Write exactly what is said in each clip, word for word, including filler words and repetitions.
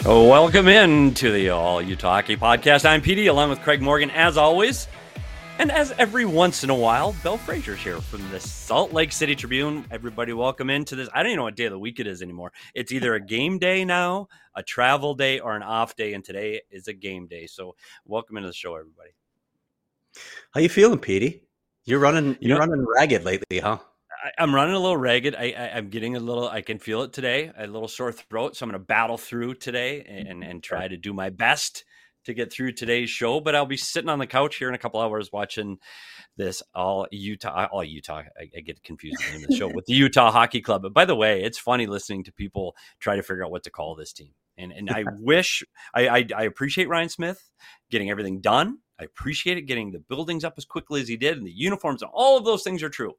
Welcome in to the All Utah Hockey Podcast. I'm P D, along with Craig Morgan, as always. And as every once in a while, Belle Frazier's here from the Salt Lake City Tribune. Everybody welcome into this. I don't even know what day of the week it is anymore. It's either a game day now, a travel day, or an off day, and today is a game day. So welcome into the show, everybody. How you feeling, Petey? You're running you're you know, running ragged lately, huh? I, I'm running a little ragged. I, I, I'm getting a little, I can feel it today, a little sore throat. So I'm going to battle through today and, and try to do my best to get through today's show, but I'll be sitting on the couch here in a couple hours watching this all Utah, all Utah. I, I get confused with the name of the show with the Utah Hockey Club. But by the way, it's funny listening to people try to figure out what to call this team. And and I wish I, I I appreciate Ryan Smith getting everything done. I appreciate it getting the buildings up as quickly as he did, and the uniforms and all of those things are true.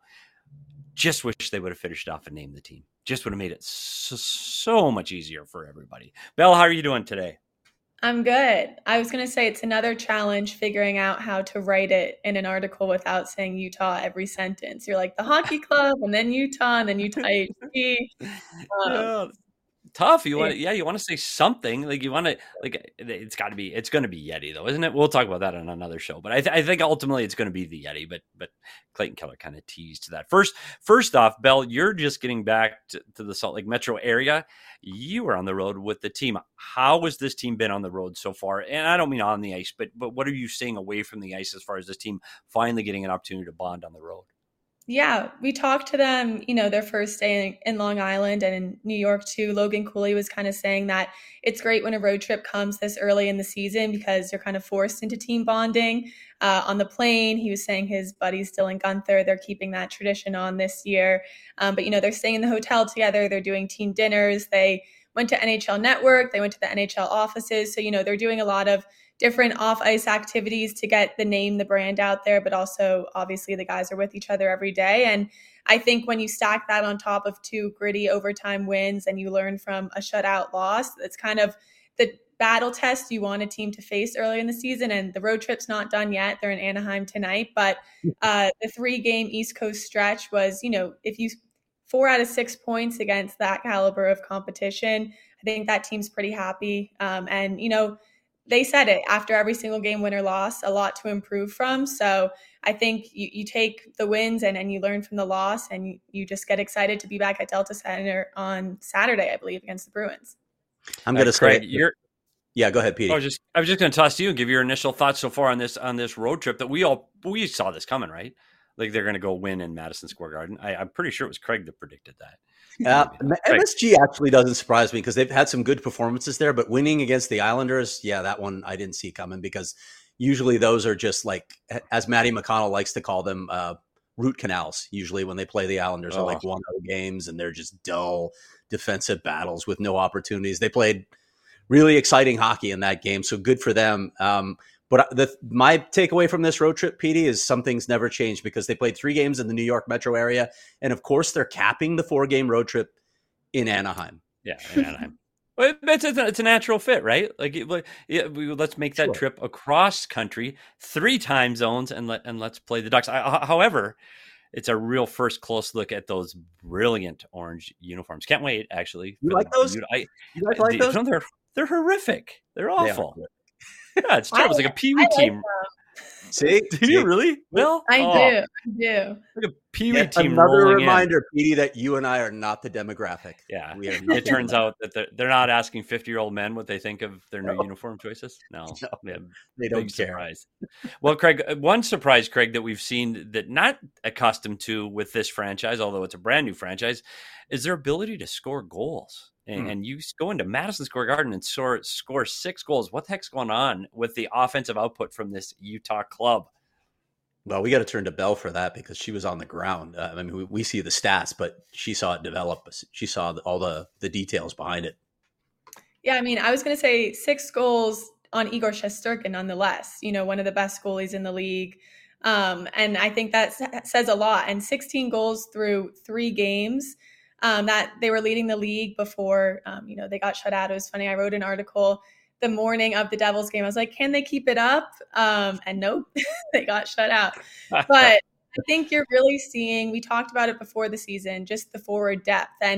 Just wish they would have finished off and named the team. Just would have made it so, so much easier for everybody. Belle, how are you doing today? I'm good. I was going to say it's another challenge figuring out how to write it in an article without saying Utah every sentence. You're like the hockey club and then Utah and then Utah H C. Um, yeah. Tough. You want to, yeah, you want to say something like you want to, like, it's got to be, it's going to be Yeti though, isn't it? We'll talk about that on another show, but I, th- I think ultimately it's going to be the Yeti, but, but Clayton Keller kind of teased that. First, first off, Belle, you're just getting back to, to the Salt Lake metro area. You were on the road with the team. How has this team been on the road so far? And I don't mean on the ice, but, but what are you seeing away from the ice as far as this team finally getting an opportunity to bond on the road? Yeah, we talked to them, you know, their first day in, in Long Island and in New York too. Logan Cooley was kind of saying that it's great when a road trip comes this early in the season because you're kind of forced into team bonding. Uh, on the plane, he was saying his buddies Dylan Gunther, they're keeping that tradition on this year. Um, but, you know, they're staying in the hotel together. They're doing team dinners. They went to N H L Network. They went to the N H L offices. So, you know, they're doing a lot of different off-ice activities to get the name, the brand out there, but also obviously the guys are with each other every day. And I think when you stack that on top of two gritty overtime wins and you learn from a shutout loss, it's kind of the battle test you want a team to face early in the season. And the road trip's not done yet. They're in Anaheim tonight, but uh, the three-game East Coast stretch was, you know, if you four out of six points against that caliber of competition, I think that team's pretty happy. Um, and, you know, they said it after every single game, win or loss, a lot to improve from. So I think you, you take the wins and, and you learn from the loss and you, you just get excited to be back at Delta Center on Saturday, I believe, against the Bruins. I'm going to say, you're, yeah, go ahead, Petey. I was just, I was just going to toss to you and give your initial thoughts so far on this, on this road trip that we all, we saw this coming, right? Like they're going to go win in Madison Square Garden. I, I'm pretty sure it was Craig that predicted that. Uh, M S G actually doesn't surprise me because they've had some good performances there, but winning against the Islanders, yeah, that one I didn't see coming because usually those are just like, as Matty McConnell likes to call them, uh, root canals. Usually when they play the Islanders, oh. are like one oh games and they're just dull defensive battles with no opportunities. They played really exciting hockey in that game, so good for them. Um, But the, my takeaway from this road trip, Petey, is something's never changed because they played three games in the New York metro area. And, of course, they're capping the four-game road trip in Anaheim. Yeah, in Anaheim. Well, it's, a, it's a natural fit, right? Like, it, yeah, we, let's make that sure. trip across country, three time zones, and, let, and let's play the Ducks. I, however, it's a real first close look at those brilliant orange uniforms. Can't wait, actually. You like those? I, you like, like those? They're, they're horrific. They're awful. They Yeah, it's terrible. It's like a Pee Wee team. See? Do See? you really? Well, I oh. do. I do. Like a Pee Wee team. Another reminder, Petey, that you and I are not the demographic. Yeah. It turns out that they're, they're not asking fifty-year-old men what they think of their new no. uniform choices. No. no they, they don't big care. Surprise. Well, Craig, one surprise, Craig, that we've seen that not accustomed to with this franchise, although it's a brand new franchise, is their ability to score goals. And, mm. and you go into Madison Square Garden and score, score six goals. What the heck's going on with the offensive output from this Utah club? Well, we got to turn to Belle for that because she was on the ground. Uh, I mean, we, we see the stats, but she saw it develop. She saw the, all the, the details behind it. Yeah, I mean, I was going to say six goals on Igor Shesterkin nonetheless. You know, one of the best goalies in the league. Um, and I think that says a lot. And sixteen goals through three games. Um, that they were leading the league before, um, you know, they got shut out. It was funny. I wrote an article the morning of the Devils game. I was like, can they keep it up? Um, and nope, they got shut out. But I think you're really seeing, we talked about it before the season, just the forward depth. And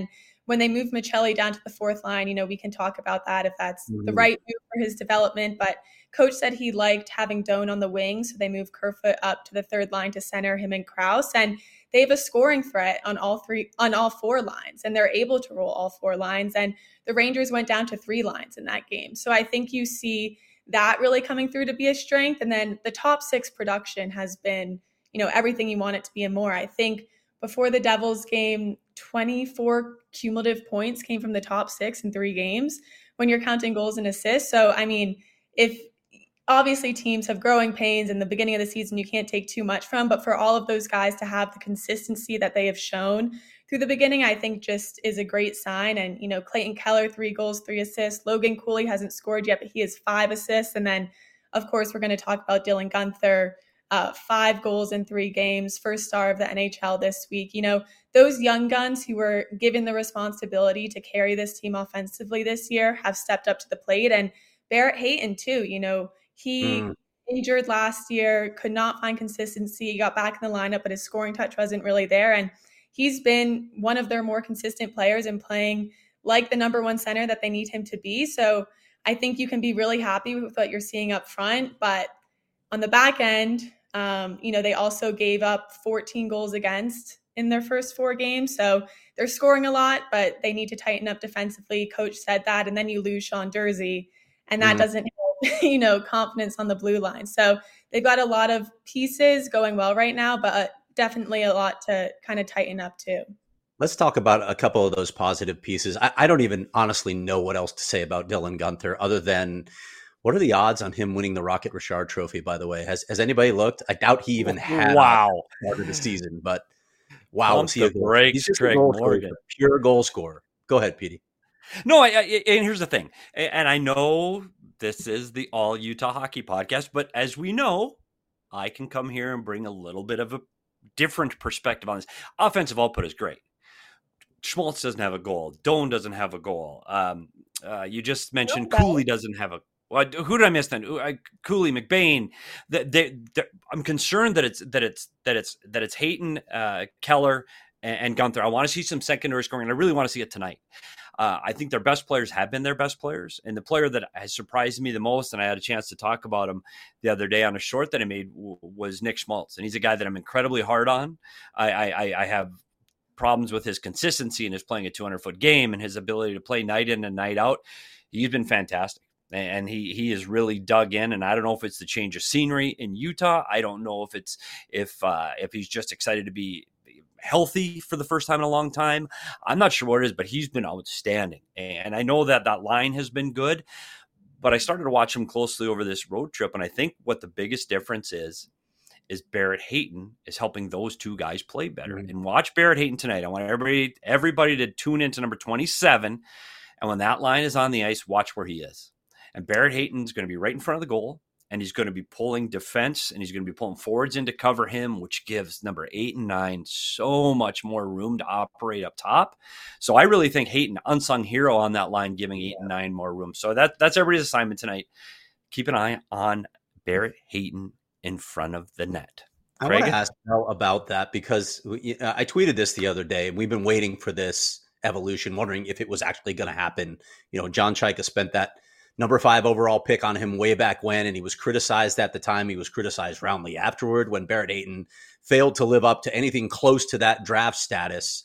when they moved Michelli down to the fourth line, you know, we can talk about that if that's mm-hmm. the right move for his development. But coach said he liked having Doan on the wing, so they moved Kerfoot up to the third line to center him and Krause. And they have a scoring threat on all three, on all four lines, and they're able to roll all four lines. And the Rangers went down to three lines in that game. So I think you see that really coming through to be a strength. And then the top six production has been, you know, everything you want it to be and more. I think before the Devils game, twenty-four cumulative points came from the top six in three games when you're counting goals and assists. So, I mean, if obviously teams have growing pains in the beginning of the season, you can't take too much from, but for all of those guys to have the consistency that they have shown through the beginning, I think just is a great sign. And, you know, Clayton Keller, three goals, three assists. Logan Cooley hasn't scored yet, but he has five assists. And then, of course, we're going to talk about Dylan Guenther, uh, five goals in three games, first star of the N H L this week. You know, those young guns who were given the responsibility to carry this team offensively this year have stepped up to the plate. And Barrett Hayton, too, you know, he mm. injured last year, could not find consistency. He got back in the lineup, but his scoring touch wasn't really there. And he's been one of their more consistent players in playing like the number one center that they need him to be. So I think you can be really happy with what you're seeing up front. But on the back end, um, you know, they also gave up fourteen goals against in their first four games. So they're scoring a lot, but they need to tighten up defensively. Coach said that. And then you lose Sean Durzi, and that mm. doesn't help, you know, confidence on the blue line. So they've got a lot of pieces going well right now, but definitely a lot to kind of tighten up too. Let's talk about a couple of those positive pieces. I, I don't even honestly know what else to say about Dylan Guenther other than what are the odds on him winning the Rocket Richard Trophy, by the way? Has has anybody looked? I doubt he even had wow. part of the season, but wow. Pump the brakes, He's just Craig a goal Morgan. Scorer, pure goal scorer. Go ahead, Petey. No, I, I, and here's the thing. And I know this is the All Utah Hockey Podcast, but as we know, I can come here and bring a little bit of a different perspective on this. Offensive output is great. Schmaltz doesn't have a goal. Doan doesn't have a goal. Um, uh, you just mentioned no, Cooley doesn't have a. Well, who did I miss then? Cooley, McBain. They, they, I'm concerned that it's that it's that it's that it's Hayton, uh, Keller, and, and Guenther. I want to see some secondary scoring, and I really want to see it tonight. Uh, I think their best players have been their best players. And the player that has surprised me the most, and I had a chance to talk about him the other day on a short that I made, w- was Nick Schmaltz. And he's a guy that I'm incredibly hard on. I, I, I have problems with his consistency and his playing a two hundred foot game and his ability to play night in and night out. He's been fantastic. And he he is really dug in, and I don't know if it's the change of scenery in Utah. I don't know if it's if uh, if he's just excited to be healthy for the first time in a long time. I'm not sure what it is, but he's been outstanding. And I know that that line has been good, but I started to watch him closely over this road trip. And I think what the biggest difference is, is Barrett Hayton is helping those two guys play better. Mm-hmm. And watch Barrett Hayton tonight. I want everybody, everybody to tune into number twenty-seven. And when that line is on the ice, watch where he is. And Barrett Hayton's going to be right in front of the goal. And he's going to be pulling defense, and he's going to be pulling forwards in to cover him, which gives number eight and nine so much more room to operate up top. So I really think Hayton, unsung hero on that line, giving eight and nine more room. So that that's everybody's assignment tonight. Keep an eye on Barrett Hayton in front of the net. I want to ask Mel about that because I tweeted this the other day, and we've been waiting for this evolution, wondering if it was actually going to happen. You know, John Chaika spent that number five overall pick on him way back when, and he was criticized at the time. He was criticized roundly afterward when Barrett Hayton failed to live up to anything close to that draft status.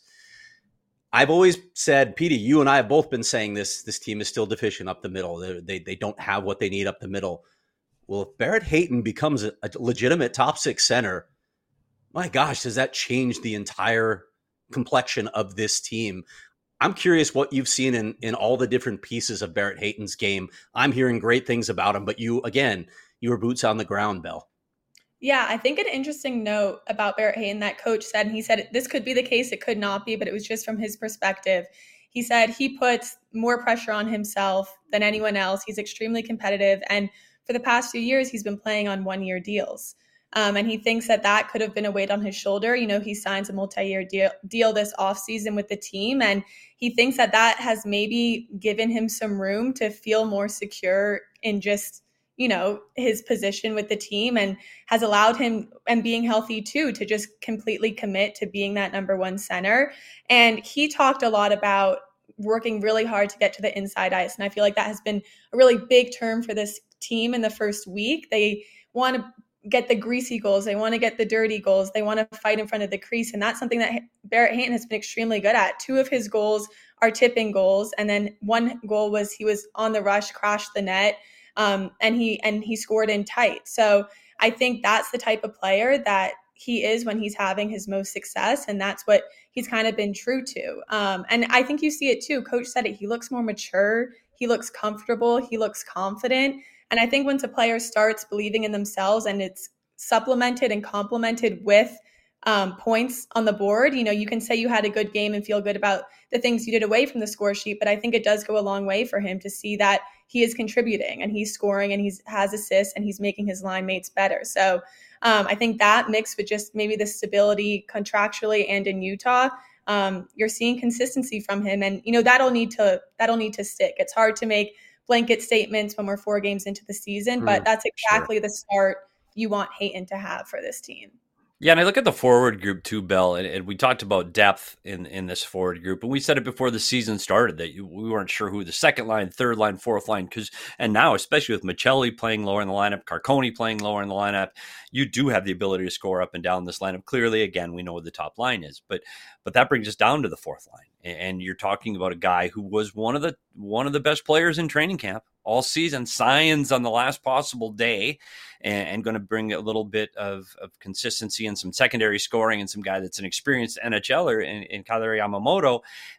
I've always said, Petey, you and I have both been saying this, this team is still deficient up the middle. They, they, they don't have what they need up the middle. Well, if Barrett Hayton becomes a, a legitimate top six center, my gosh, does that change the entire complexion of this team? I'm curious what you've seen in, in all the different pieces of Barrett Hayton's game. I'm hearing great things about him, but you, again, you were boots on the ground, Belle. Yeah, I think an interesting note about Barrett Hayton that coach said, and he said this could be the case, it could not be, but it was just from his perspective. He said he puts more pressure on himself than anyone else. He's extremely competitive. And for the past few years, he's been playing on one-year deals. Um, and he thinks that that could have been a weight on his shoulder. You know, he signs a multi-year deal, deal this offseason with the team. And he thinks that that has maybe given him some room to feel more secure in just, you know, his position with the team, and has allowed him, and being healthy too, to just completely commit to being that number one center. And he talked a lot about working really hard to get to the inside ice. And I feel like that has been a really big term for this team in the first week. They want to get the greasy goals. They want to get the dirty goals. They want to fight in front of the crease. And that's something that Barrett Hayton has been extremely good at. Two of his goals are tipping goals. And then one goal was he was on the rush, crashed the net, um, and he and he scored in tight. So I think that's the type of player that he is when he's having his most success. And that's what he's kind of been true to. Um, and I think you see it too. Coach said it. He looks more mature. He looks comfortable. He looks confident. And I think once a player starts believing in themselves and it's supplemented and complemented with um, points on the board, you know, you can say you had a good game and feel good about the things you did away from the score sheet. But I think it does go a long way for him to see that he is contributing and he's scoring and he has assists and he's making his line mates better. So um, I think that mixed with just maybe the stability contractually and in Utah, um, you're seeing consistency from him. And, you know, that'll need to that'll need to stick. It's hard to make blanket statements when we're four games into the season, but that's exactly sure. the start you want Hayton to have for this team. Yeah, and I look at the forward group too, Belle, and, and we talked about depth in, in this forward group, and we said it before the season started that you, we weren't sure who the second line, third line, fourth line, because and now, especially with Maccelli playing lower in the lineup, Carcone playing lower in the lineup, you do have the ability to score up and down this lineup. Clearly, again, we know what the top line is, but but that brings us down to the fourth line, and you're talking about a guy who was one of the one of the best players in training camp all season, signs on the last possible day, and, and going to bring a little bit of, of consistency and some secondary scoring and some guy that's an experienced NHLer in, in Kailer Yamamoto,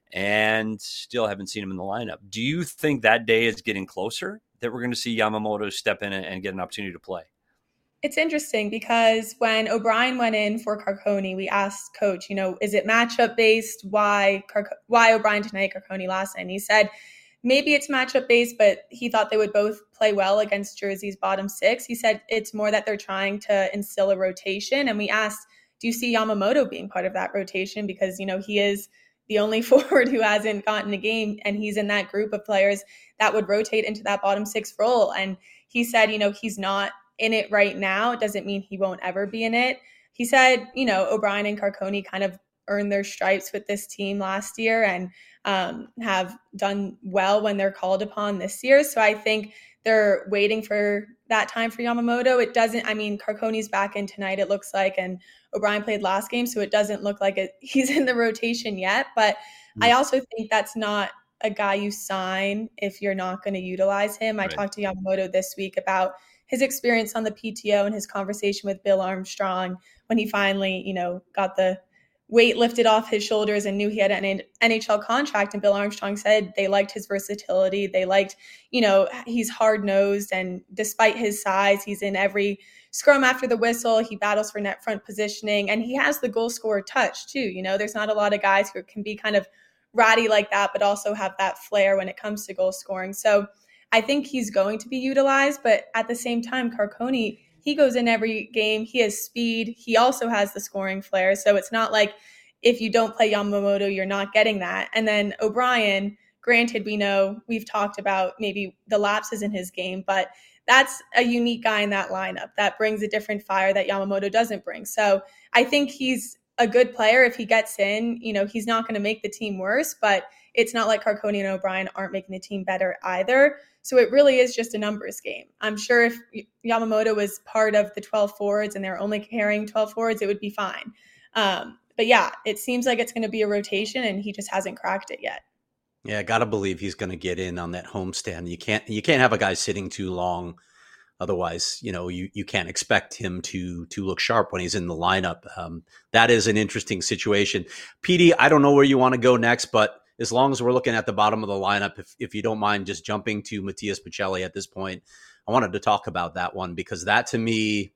and still haven't seen him in the lineup. Do you think that day is getting closer, that we're going to see Yamamoto step in and, and get an opportunity to play? It's interesting because when O'Brien went in for Carcone, we asked Coach, you know, is it matchup based? Why Car- why O'Brien tonight, Carcone last night? And he said, maybe it's matchup based, but he thought they would both play well against Jersey's bottom six. He said it's more that they're trying to instill a rotation. And we asked, do you see Yamamoto being part of that rotation? Because, you know, he is the only forward who hasn't gotten a game, and he's in that group of players that would rotate into that bottom six role. And he said, you know, he's not in it right now. It doesn't mean he won't ever be in it. He said, you know, O'Brien and Carcone kind of earned their stripes with this team last year and um, have done well when they're called upon this year. So I think they're waiting for that time for Yamamoto. It doesn't, I mean, Carcone's back in tonight, it looks like, and O'Brien played last game, so it doesn't look like it, he's in the rotation yet. But mm-hmm. I also think that's not a guy you sign if you're not going to utilize him. Right. I talked to Yamamoto this week about his experience on the P T O and his conversation with Bill Armstrong when he finally, you know, got the weight lifted off his shoulders and knew he had an N H L contract. And Bill Armstrong said they liked his versatility. They liked, you know, he's hard-nosed, and despite his size, he's in every scrum after the whistle. He battles for net front positioning, and he has the goal scorer touch too. You know, there's not a lot of guys who can be kind of ratty like that, but also have that flair when it comes to goal scoring. So I think he's going to be utilized, but at the same time, Carcone, he goes in every game. He has speed. He also has the scoring flair. So it's not like if you don't play Yamamoto, you're not getting that. And then O'Brien, granted, we know we've talked about maybe the lapses in his game, but that's a unique guy in that lineup that brings a different fire that Yamamoto doesn't bring. So I think he's a good player. If he gets in, you know, he's not going to make the team worse, but it's not like Carcone and O'Brien aren't making the team better either. So it really is just a numbers game. I'm sure if Yamamoto was part of the twelve forwards and they're only carrying twelve forwards, it would be fine. Um, but yeah, it seems like it's going to be a rotation, and he just hasn't cracked it yet. Yeah, I got to believe he's going to get in on that homestand. You can't you can't have a guy sitting too long. Otherwise, you know, you, you can't expect him to to look sharp when he's in the lineup. Um, that is an interesting situation. P D, I don't know where you want to go next, but as long as we're looking at the bottom of the lineup, if, if you don't mind just jumping to Matias Maccelli at this point, I wanted to talk about that one because that to me,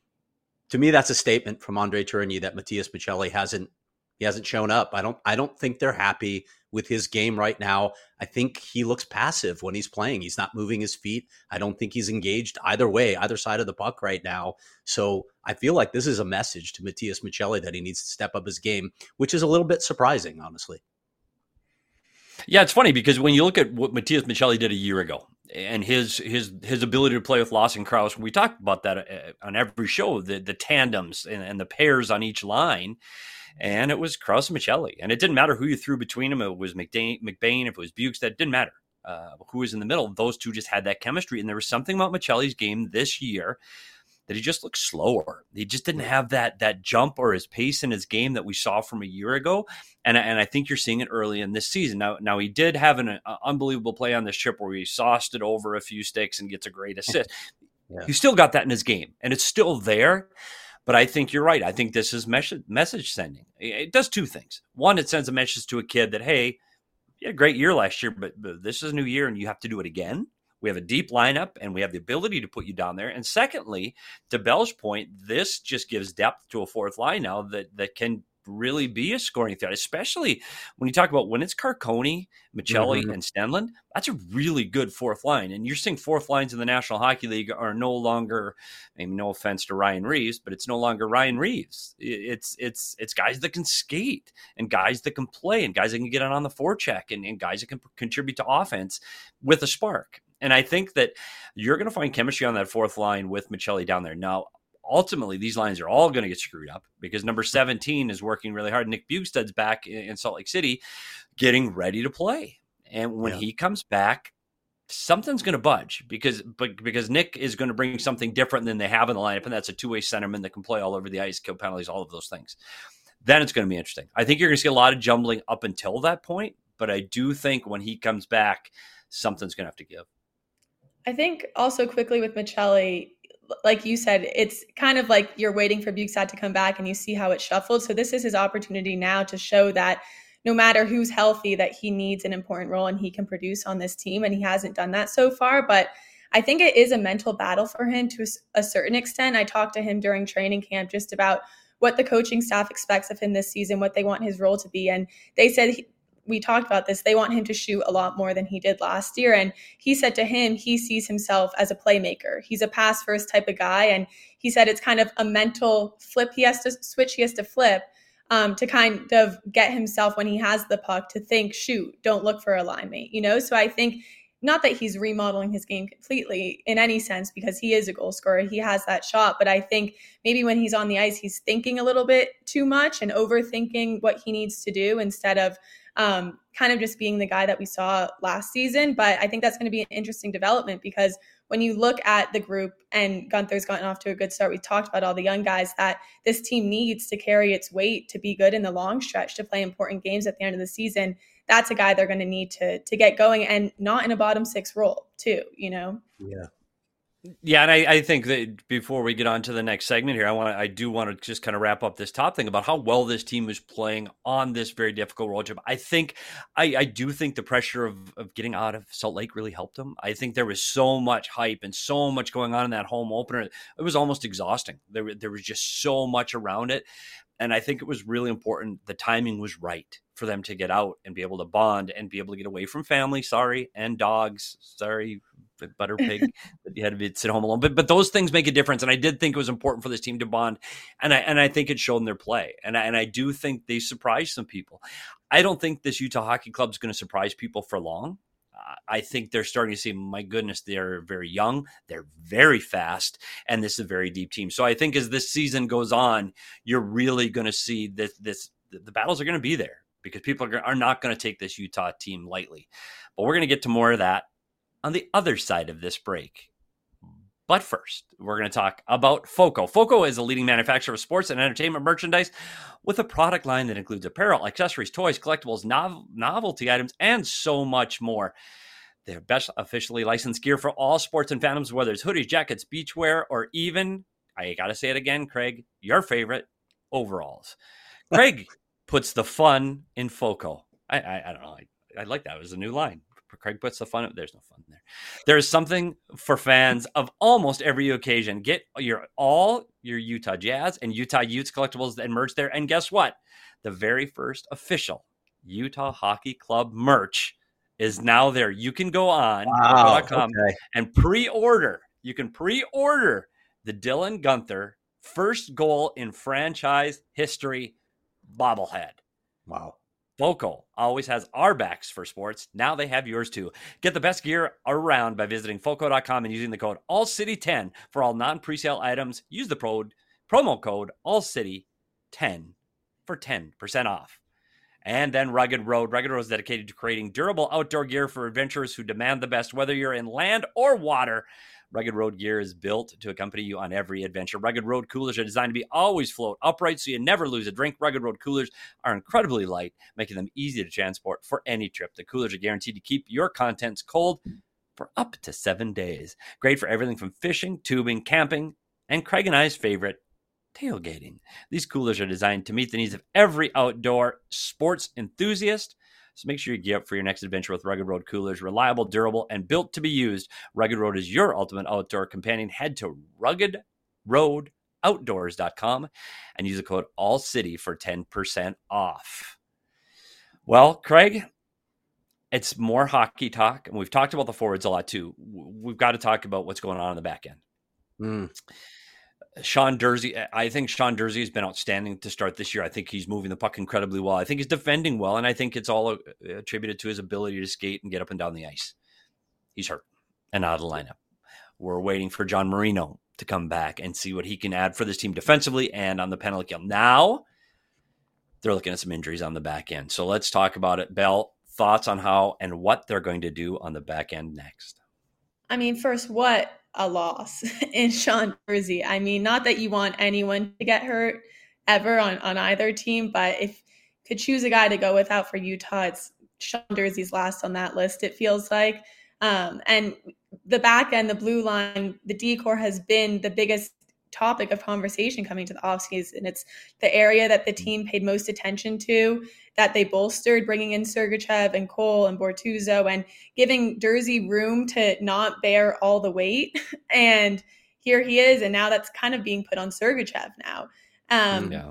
to me, that's a statement from Andre Tourigny that Matias Maccelli hasn't he hasn't shown up. I don't I don't think they're happy with his game right now. I think he looks passive when he's playing. He's not moving his feet. I don't think he's engaged either way, either side of the puck right now. So I feel like this is a message to Matias Maccelli that he needs to step up his game, which is a little bit surprising, honestly. Yeah, it's funny because when you look at what Matias Maccelli did a year ago, and his his his ability to play with Lawson Crouse. We talked about that on every show, the the tandems and, and the pairs on each line. And it was Crouse and Maccelli. And it didn't matter who you threw between them. It was McBain, McBain if it was Bukestad, it didn't matter uh, who was in the middle. Those two just had that chemistry. And there was something about Maccelli's game this year that he just looked slower. He just didn't have that that jump or his pace in his game that we saw from a year ago. And, and I think you're seeing it early in this season. Now, now he did have an uh, unbelievable play on this trip where he sauced it over a few sticks and gets a great assist. Yeah. He still got that in his game, and it's still there. But I think you're right. I think this is message, message sending. It does two things. One, it sends a message to a kid that, hey, you had a great year last year, but, but this is a new year and you have to do it again. We have a deep lineup and we have the ability to put you down there. And secondly, to Bell's point, this just gives depth to a fourth line now that, that can really be a scoring threat, especially when you talk about when it's Carcone, Maccelli, mm-hmm. and Stenlund. That's a really good fourth line. And you're seeing fourth lines in the National Hockey League are no longer, I mean, no offense to Ryan Reeves, but it's no longer Ryan Reeves. It's it's it's guys that can skate and guys that can play and guys that can get on the forecheck and, and guys that can contribute to offense with a spark. And I think that you're going to find chemistry on that fourth line with Maccelli down there. Now, ultimately, these lines are all going to get screwed up because number seventeen is working really hard. Nick Bukestad's back in Salt Lake City getting ready to play. And when yeah. he comes back, something's going to budge because but, because Nick is going to bring something different than they have in the lineup, and that's a two-way centerman that can play all over the ice, kill penalties, all of those things. Then it's going to be interesting. I think you're going to see a lot of jumbling up until that point, but I do think when he comes back, something's going to have to give. I think also quickly with Maccelli, like you said, it's kind of like you're waiting for Bukestad to come back and you see how it shuffled. So this is his opportunity now to show that no matter who's healthy, that he needs an important role and he can produce on this team. And he hasn't done that so far. But I think it is a mental battle for him to a certain extent. I talked to him during training camp just about what the coaching staff expects of him this season, what they want his role to be. And they said he, we talked about this. They want him to shoot a lot more than he did last year. And he said to him, he sees himself as a playmaker. He's a pass first type of guy. And he said it's kind of a mental flip. He has to switch. He has to flip um, to kind of get himself when he has the puck to think, shoot, don't look for a line mate, you know? So I think not that he's remodeling his game completely in any sense, because he is a goal scorer. He has that shot. But I think maybe when he's on the ice, he's thinking a little bit too much and overthinking what he needs to do instead of Um, kind of just being the guy that we saw last season. But I think that's going to be an interesting development because when you look at the group, and Gunther's gotten off to a good start, we talked about all the young guys that this team needs to carry its weight to be good in the long stretch, to play important games at the end of the season. That's a guy they're going to need to to get going, and not in a bottom six role too, you know? Yeah. Yeah, and I, I think that before we get on to the next segment here, I want to, I do want to just kind of wrap up this top thing about how well this team is playing on this very difficult road trip. I think, I, I do think the pressure of, of getting out of Salt Lake really helped them. I think there was so much hype and so much going on in that home opener. It was almost exhausting. There, there was just so much around it. And I think it was really important. The timing was right for them to get out and be able to bond and be able to get away from family. Sorry. And dogs. Sorry. Butter pig that you had to be sit home alone. But but those things make a difference. And I did think it was important for this team to bond. And I and I think it showed in their play. And I, and I do think they surprised some people. I don't think this Utah Hockey Club is going to surprise people for long. Uh, I think they're starting to see, my goodness, they're very young. They're very fast. And this is a very deep team. So I think as this season goes on, you're really going to see this, this the battles are going to be there because people are, are not going to take this Utah team lightly. But we're going to get to more of that on the other side of this break. But first, we're going to talk about FOCO. FOCO is a leading manufacturer of sports and entertainment merchandise with a product line that includes apparel, accessories, toys, collectibles, nov- novelty items, and so much more. They're best officially licensed gear for all sports and fandoms, whether it's hoodies, jackets, beachwear, or even, I got to say it again, Craig, your favorite, overalls. Craig puts the fun in FOCO. I, I, I don't know. I, I like that. It was a new line. Craig puts the fun. There's no fun there. There is something for fans of almost every occasion. Get your all your Utah Jazz and Utah Utes collectibles and merch there. And guess what? The very first official Utah Hockey Club merch is now there. You can go on wow, okay. and pre-order. You can pre-order the Dylan Guenther first goal in franchise history bobblehead. Wow. Foco always has our backs for sports. Now they have yours too. Get the best gear around by visiting foco dot com and using the code all city ten for all non-presale items. Use the pro- promo code all city ten for ten percent off. And then Rugged Road. Rugged Road is dedicated to creating durable outdoor gear for adventurers who demand the best, whether you're in land or water. Rugged Road gear is built to accompany you on every adventure. Rugged Road coolers are designed to be always float upright so you never lose a drink. Rugged Road coolers are incredibly light, making them easy to transport for any trip. The coolers are guaranteed to keep your contents cold for up to seven days. Great for everything from fishing, tubing, camping, and Craig and I's favorite, tailgating. These coolers are designed to meet the needs of every outdoor sports enthusiast. So make sure you gear up for your next adventure with Rugged Road coolers. Reliable, durable, and built to be used. Rugged Road is your ultimate outdoor companion. Head to rugged road outdoors dot com and use the code ALLCITY for ten percent off. Well, Craig, it's more hockey talk, and we've talked about the forwards a lot too. We've got to talk about what's going on in the back end. Mm. Sean Durzi, I think Sean Durzi has been outstanding to start this year. I think he's moving the puck incredibly well. I think he's defending well, and I think it's all attributed to his ability to skate and get up and down the ice. He's hurt and out of the lineup. We're waiting for John Marino to come back and see what he can add for this team defensively and on the penalty kill. Now, they're looking at some injuries on the back end. So let's talk about it. Bell, thoughts on how and what they're going to do on the back end next? I mean, first, what a loss in Sean Durzi. I mean, not that you want anyone to get hurt ever on, on either team, but if you could choose a guy to go without for Utah, it's Sean Durzi's last on that list, it feels like. Um, and the back end, the blue line, the D-core has been the biggest topic of conversation coming to the offseason. It's the area that the team paid most attention to, that they bolstered, bringing in Sergachev and Cole and Bortuzzo and giving Durzi room to not bear all the weight. And here he is, and now that's kind of being put on Sergachev now. Um, yeah.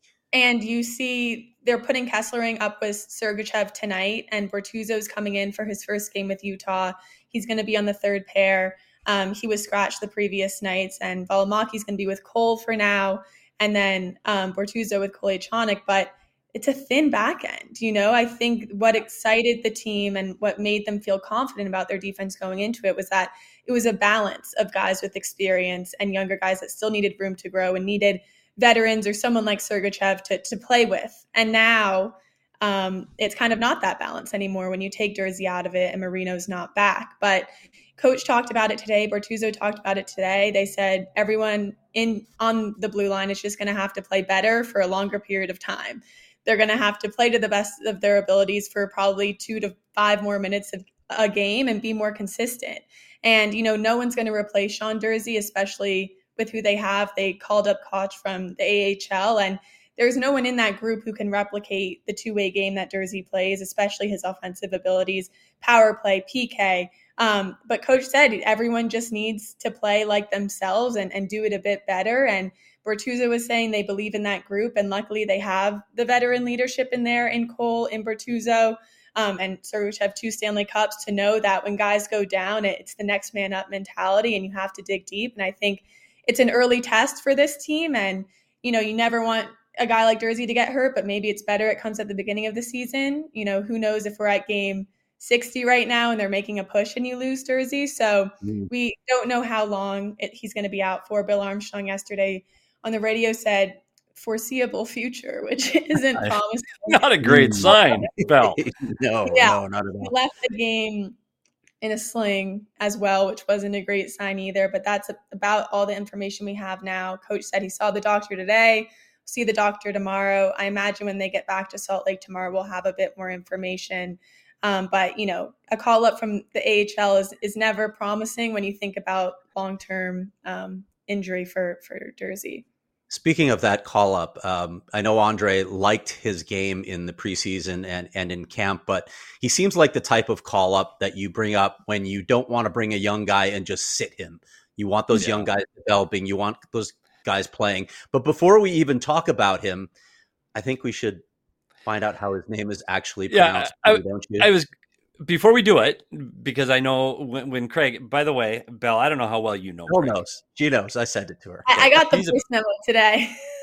And you see they're putting Kesselring up with Sergachev tonight, and Bortuzzo's coming in for his first game with Utah. He's going to be on the third pair. Um, he was scratched the previous nights, and Valimaki's going to be with Cole for now, and then um, Bortuzzo with Kolechanik. But it's a thin back end, you know. I think what excited the team and what made them feel confident about their defense going into it was that it was a balance of guys with experience and younger guys that still needed room to grow and needed veterans or someone like Sergachev to to play with. And now um, it's kind of not that balance anymore when you take Durzi out of it and Marino's not back. But Coach talked about it today. Bortuzzo talked about it today. They said everyone in on the blue line is just going to have to play better for a longer period of time. They're going to have to play to the best of their abilities for probably two to five more minutes of a game and be more consistent. And, you know, no one's going to replace Sean Durzi, especially with who they have. They called up Koch from the A H L, and there's no one in that group who can replicate the two-way game that Durzi plays, especially his offensive abilities, power play, P K. Um, but Coach said everyone just needs to play like themselves and, and do it a bit better. And Bortuzzo was saying they believe in that group, and luckily they have the veteran leadership in there in Cole, in Bortuzzo, um, and Sergachev, two Stanley Cups, to know that when guys go down, it's the next man up mentality, and you have to dig deep. And I think it's an early test for this team, and you know, you never want a guy like Durzi to get hurt, but maybe it's better it comes at the beginning of the season. You know, who knows if we're at game sixty right now and they're making a push and you lose Durzi. So mm. we don't know how long it, he's going to be out for. Bill Armstrong yesterday on the radio said foreseeable future, which isn't promising. Not a great sign, Bill. no, yeah, no, not at all. He left the game in a sling as well, which wasn't a great sign either. But that's about all the information we have now. Coach said he saw the doctor today, see the doctor tomorrow. I imagine when they get back to Salt Lake tomorrow, we'll have a bit more information. Um, but, you know, a call up from the A H L is, is never promising when you think about long-term um, injury for, for Durzi. Speaking of that call up, um, I know Andre liked his game in the preseason and, and in camp, but he seems like the type of call up that you bring up when you don't want to bring a young guy and just sit him. You want those yeah. young guys developing. You want those guys playing. But before we even talk about him, I think we should find out how his name is actually pronounced. Yeah, I, don't you? I was before we do it, because I know when, when Craig, by the way, Belle, I don't know how well you know. Bill knows. She knows. I sent it to her. I, I got the voice memo today.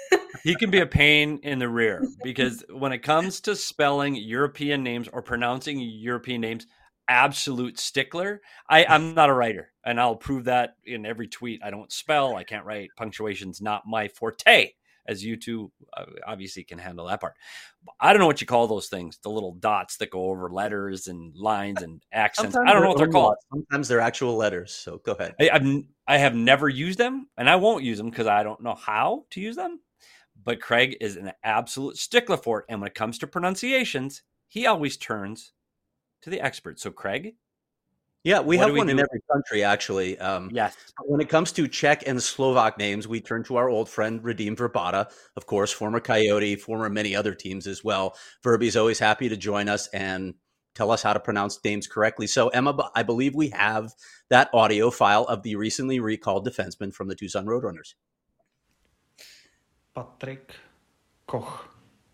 He can be a pain in the rear because when it comes to spelling European names or pronouncing European names, absolute stickler. I, I'm not a writer, and I'll prove that in every tweet. I don't spell. I can't write. Punctuation's not my forte, as you two uh, obviously can handle that part. I don't know what you call those things, the little dots that go over letters and lines and accents. Sometimes I don't know what they're called. Sometimes they're actual letters, so go ahead. I, I've, I have never used them, and I won't use them because I don't know how to use them. But Craig is an absolute stickler for it, and when it comes to pronunciations, he always turns to the experts. So, Craig? Yeah, we have we one do? in every country, actually. Um, yes. When it comes to Czech and Slovak names, we turn to our old friend, Radim Verbata, of course, former Coyote, former many other teams as well. Verby's always happy to join us and tell us how to pronounce names correctly. So, Emma, I believe we have that audio file of the recently recalled defenseman from the Tucson Roadrunners. Patrick Koch.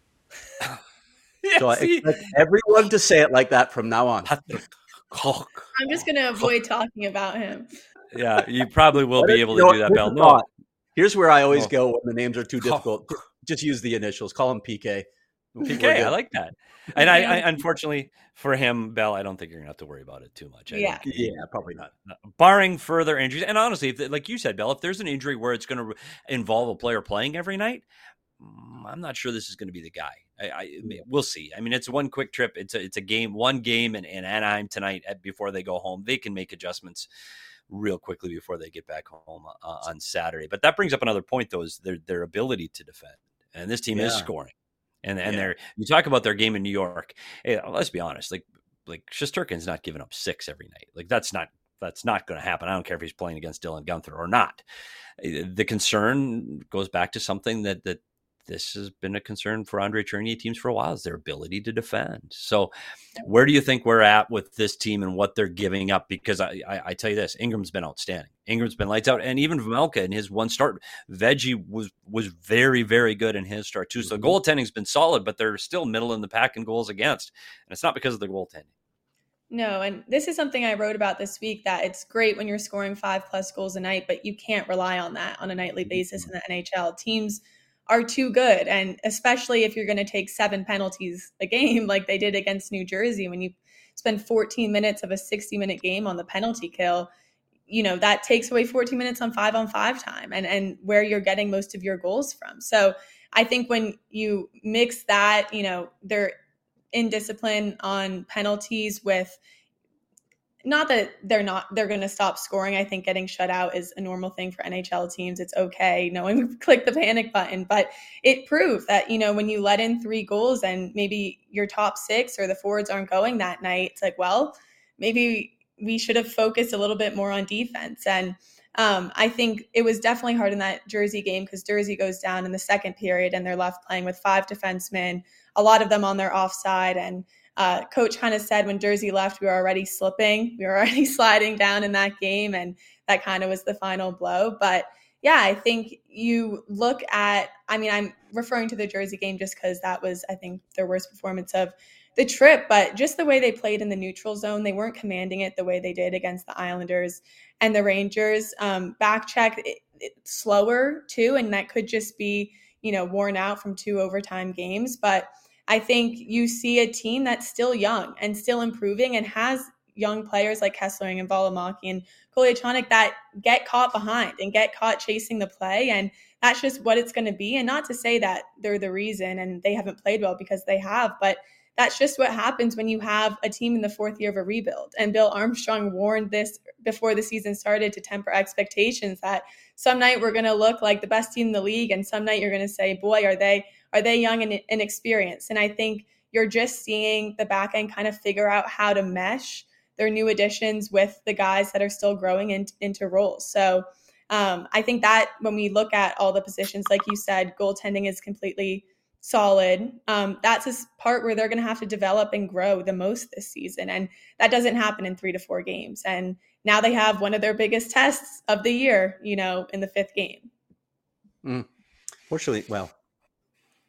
Yeah, so I expect everyone to say it like that from now on. I'm just going to avoid talking about him. Yeah, you probably will be able to do that, Bell. No. Here's where I always oh. go when the names are too difficult. Just use the initials. Call him P K. P K, I like that. And I, I, unfortunately for him, Bell, I don't think you're going to have to worry about it too much. I yeah, yeah, probably not. Barring further injuries. And honestly, if, like you said, Bell, if there's an injury where it's going to involve a player playing every night, I'm not sure this is going to be the guy. I, I we'll see. I mean, it's one quick trip. It's a it's a game, one game in, in Anaheim tonight at, before they go home. They can make adjustments real quickly before they get back home uh, on Saturday. But that brings up another point, though, is their their ability to defend. And this team yeah. is scoring. And and yeah. they're you talk about their game in New York. Hey, let's be honest. Like like Shesterkin's not giving up six every night. Like that's not that's not going to happen. I don't care if he's playing against Dylan Guenther or not. The concern goes back to something that that. This has been a concern for Andre Tourigny teams for a while, is their ability to defend. So where do you think we're at with this team and what they're giving up? Because I, I, I tell you this, Ingram's been outstanding. Ingram's been lights out. And even Vejmelka in his one start, Veggie was was very, very good in his start too. So the goaltending's been solid, but they're still middle in the pack in goals against. And it's not because of the goaltending. No, and this is something I wrote about this week, that it's great when you're scoring five plus goals a night, but you can't rely on that on a nightly basis in the N H L. Teams are too good. And especially if you're going to take seven penalties a game like they did against New Jersey, when you spend fourteen minutes of a sixty minute game on the penalty kill, you know, that takes away fourteen minutes on five on five time and, and where you're getting most of your goals from. So I think when you mix that, you know, they're indiscipline on penalties with, not that they're not, they're going to stop scoring. I think getting shut out is a normal thing for N H L teams. It's okay. No one click the panic button, but it proved that, you know, when you let in three goals and maybe your top six or the forwards aren't going that night, it's like, well, maybe we should have focused a little bit more on defense. And um, I think it was definitely hard in that Jersey game because Jersey goes down in the second period and they're left playing with five defensemen, a lot of them on their offside. And Uh, coach kind of said when Jersey left, we were already slipping. We were already sliding down in that game. And that kind of was the final blow. But yeah, I think you look at, I mean, I'm referring to the Jersey game just because that was, I think, their worst performance of the trip. But just the way they played in the neutral zone, they weren't commanding it the way they did against the Islanders and the Rangers. Um, back check, it, it, slower too. And that could just be, you know, worn out from two overtime games. But I think you see a team that's still young and still improving and has young players like Kesselring and Valimaki and Kolyachonok that get caught behind and get caught chasing the play. And that's just what it's going to be. And not to say that they're the reason and they haven't played well, because they have, but that's just what happens when you have a team in the fourth year of a rebuild. And Bill Armstrong warned this before the season started to temper expectations that some night we're going to look like the best team in the league. And some night you're going to say, boy, are they, are they young and inexperienced? And I think you're just seeing the back end kind of figure out how to mesh their new additions with the guys that are still growing in, into roles. So um, I think that when we look at all the positions, like you said, goaltending is completely solid. Um, that's a part where they're going to have to develop and grow the most this season. And that doesn't happen in three to four games. And now they have one of their biggest tests of the year, you know, in the fifth game. Mm. Fortunately, well,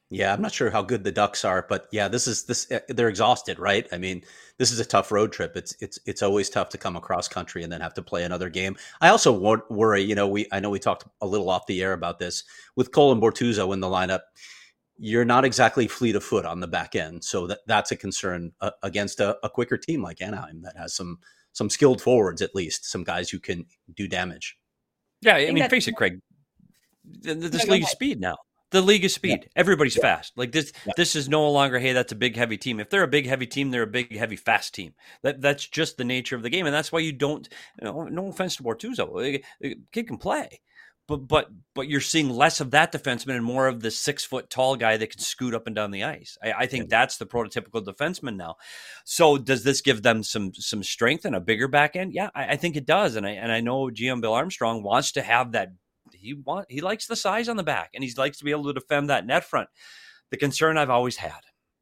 Yeah, I'm not sure how good the Ducks are, but yeah, this is this. They're exhausted, right? I mean, this is a tough road trip. It's it's it's always tough to come across country and then have to play another game. I also wor- worry, you know, we I know we talked a little off the air about this with Cole and Bortuzzo in the lineup. You're not exactly fleet of foot on the back end, so that that's a concern uh, against a, a quicker team like Anaheim that has some some skilled forwards, at least some guys who can do damage. Yeah, I, I mean, face it, Craig. This no, league is speed now. The league is speed. Yeah. Everybody's yeah. fast. Like this, yeah. this is no longer, hey, that's a big, heavy team. If they're a big, heavy team, they're a big, heavy, fast team. That That's just the nature of the game. And that's why you don't, you know, no offense to Bortuzzo, kid can play. But but but you're seeing less of that defenseman and more of the six-foot tall guy that can scoot up and down the ice. I, I think yeah. that's the prototypical defenseman now. So does this give them some some strength and a bigger back end? Yeah, I, I think it does. And I and I know G M Bill Armstrong wants to have that. He want he likes the size on the back, and he likes to be able to defend that net front. The concern I've always had,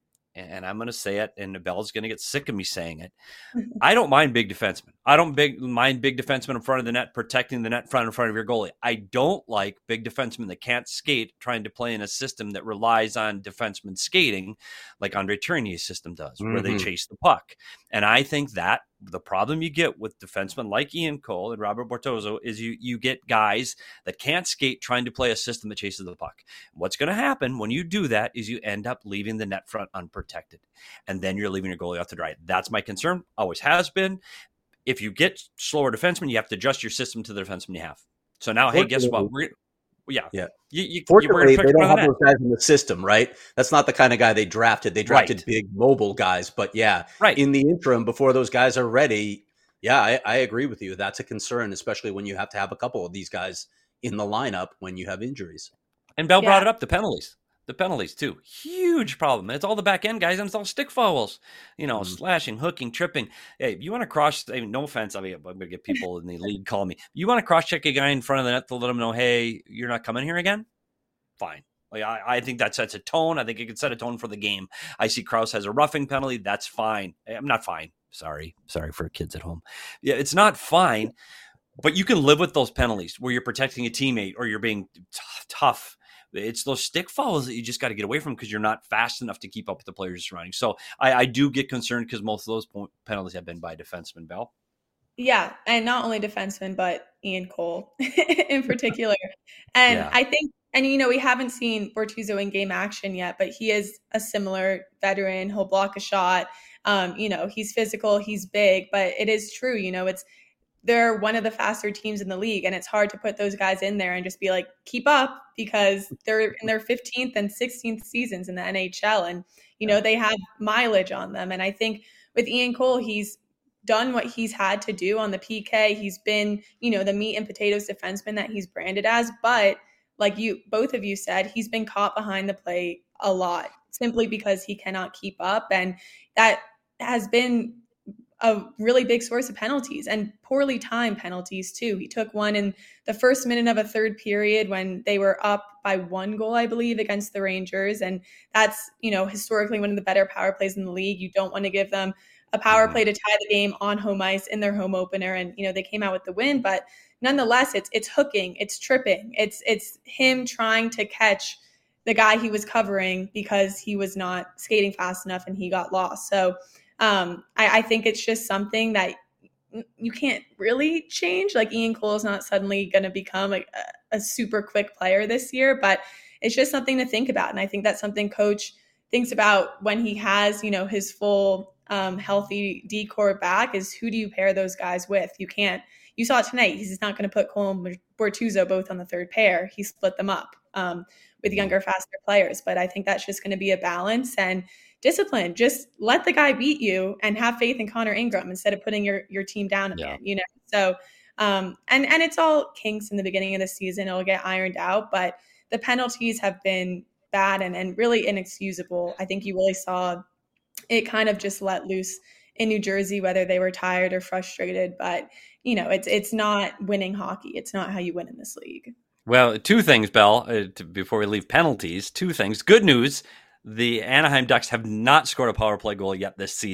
and I'm going to say it, and Bell's going to get sick of me saying it. I don't mind big defensemen. I don't big, mind big defensemen in front of the net, protecting the net front in front of your goalie. I don't like big defensemen that can't skate, trying to play in a system that relies on defensemen skating, like Andre Tournier's system does, mm-hmm. where they chase the puck. And I think that the problem you get with defensemen like Ian Cole and Robert Bortuzzo is you you get guys that can't skate trying to play a system that chases the puck. What's going to happen when you do that is you end up leaving the net front unprotected, and then you're leaving your goalie out to dry. That's my concern. Always has been. If you get slower defensemen, you have to adjust your system to the defensemen you have. So now, hey, guess what? We're Yeah. Yeah. You, you, Fortunately, they don't have those guys in the system, right? That's not the kind of guy they drafted. They drafted right. big mobile guys. But yeah, right. in the interim, before those guys are ready, yeah, I, I agree with you. That's a concern, especially when you have to have a couple of these guys in the lineup when you have injuries. And Bell yeah. brought it up, the penalties. The penalties, too. Huge problem. It's all the back end guys, and it's all stick fouls. You know, mm. slashing, hooking, tripping. Hey, you want to cross, I mean, no offense, I mean, I'm going to get people in the league calling me. You want to cross-check a guy in front of the net to let him know, hey, you're not coming here again? Fine. Like I, I think that sets a tone. I think it can set a tone for the game. I see Krause has a roughing penalty. That's fine. I'm not fine. Sorry. Sorry for kids at home. Yeah, it's not fine, but you can live with those penalties where you're protecting a teammate or you're being t- tough. It's those stick fouls that you just got to get away from because you're not fast enough to keep up with the players surrounding. So I, I do get concerned because most of those point, penalties have been by defensemen, Bell. Yeah, and not only defensemen, but Ian Cole in particular. And yeah. I think, and you know, we haven't seen Bortuzzo in game action yet, but he is a similar veteran. He'll block a shot. Um, you know, he's physical, he's big, but it is true. You know, it's they're one of the faster teams in the league, and it's hard to put those guys in there and just be like, keep up, because they're in their fifteenth and sixteenth seasons in the N H L, and you know they have mileage on them. And I think with Ian Cole, he's done what he's had to do on the P K. He's been, you know, the meat and potatoes defenseman that he's branded as, but like you, both of you said, he's been caught behind the plate a lot simply because he cannot keep up, and that has been a really big source of penalties, and poorly timed penalties too. He took one in the first minute of a third period when they were up by one goal, I believe, against the Rangers. And that's, you know, historically one of the better power plays in the league. You don't want to give them a power play to tie the game on home ice in their home opener. And, you know, they came out with the win, but nonetheless, it's, it's hooking, it's tripping. It's, it's him trying to catch the guy he was covering because he was not skating fast enough and he got lost. So, Um, I, I think it's just something that you can't really change. Like Ian Cole is not suddenly going to become a, a super quick player this year, but it's just something to think about. And I think that's something coach thinks about when he has, you know, his full um, healthy D-core back is who do you pair those guys with? You can't, you saw it tonight. He's not going to put Cole and Bortuzzo both on the third pair. He split them up um, with younger, faster players. But I think that's just going to be a balance and discipline. Just let the guy beat you and have faith in Connor Ingram instead of putting your, your team down again, yeah. you know? So, um, and, and it's all kinks in the beginning of the season. It'll get ironed out, but the penalties have been bad and, and really inexcusable. I think you really saw it kind of just let loose in New Jersey, whether they were tired or frustrated, but you know, it's, it's not winning hockey. It's not how you win in this league. Well, two things, Bell, uh, to, before we leave penalties, two things. Good news. The Anaheim Ducks have not scored a power play goal yet this season.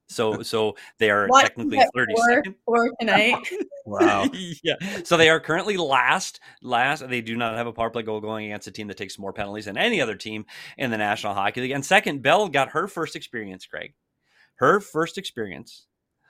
So so they are Watch technically them get thirty-second. four, four tonight. Wow. Yeah. So they are currently last. Last. They do not have a power play goal going against a team that takes more penalties than any other team in the National Hockey League. And second, Bell got her first experience, Craig. Her first experience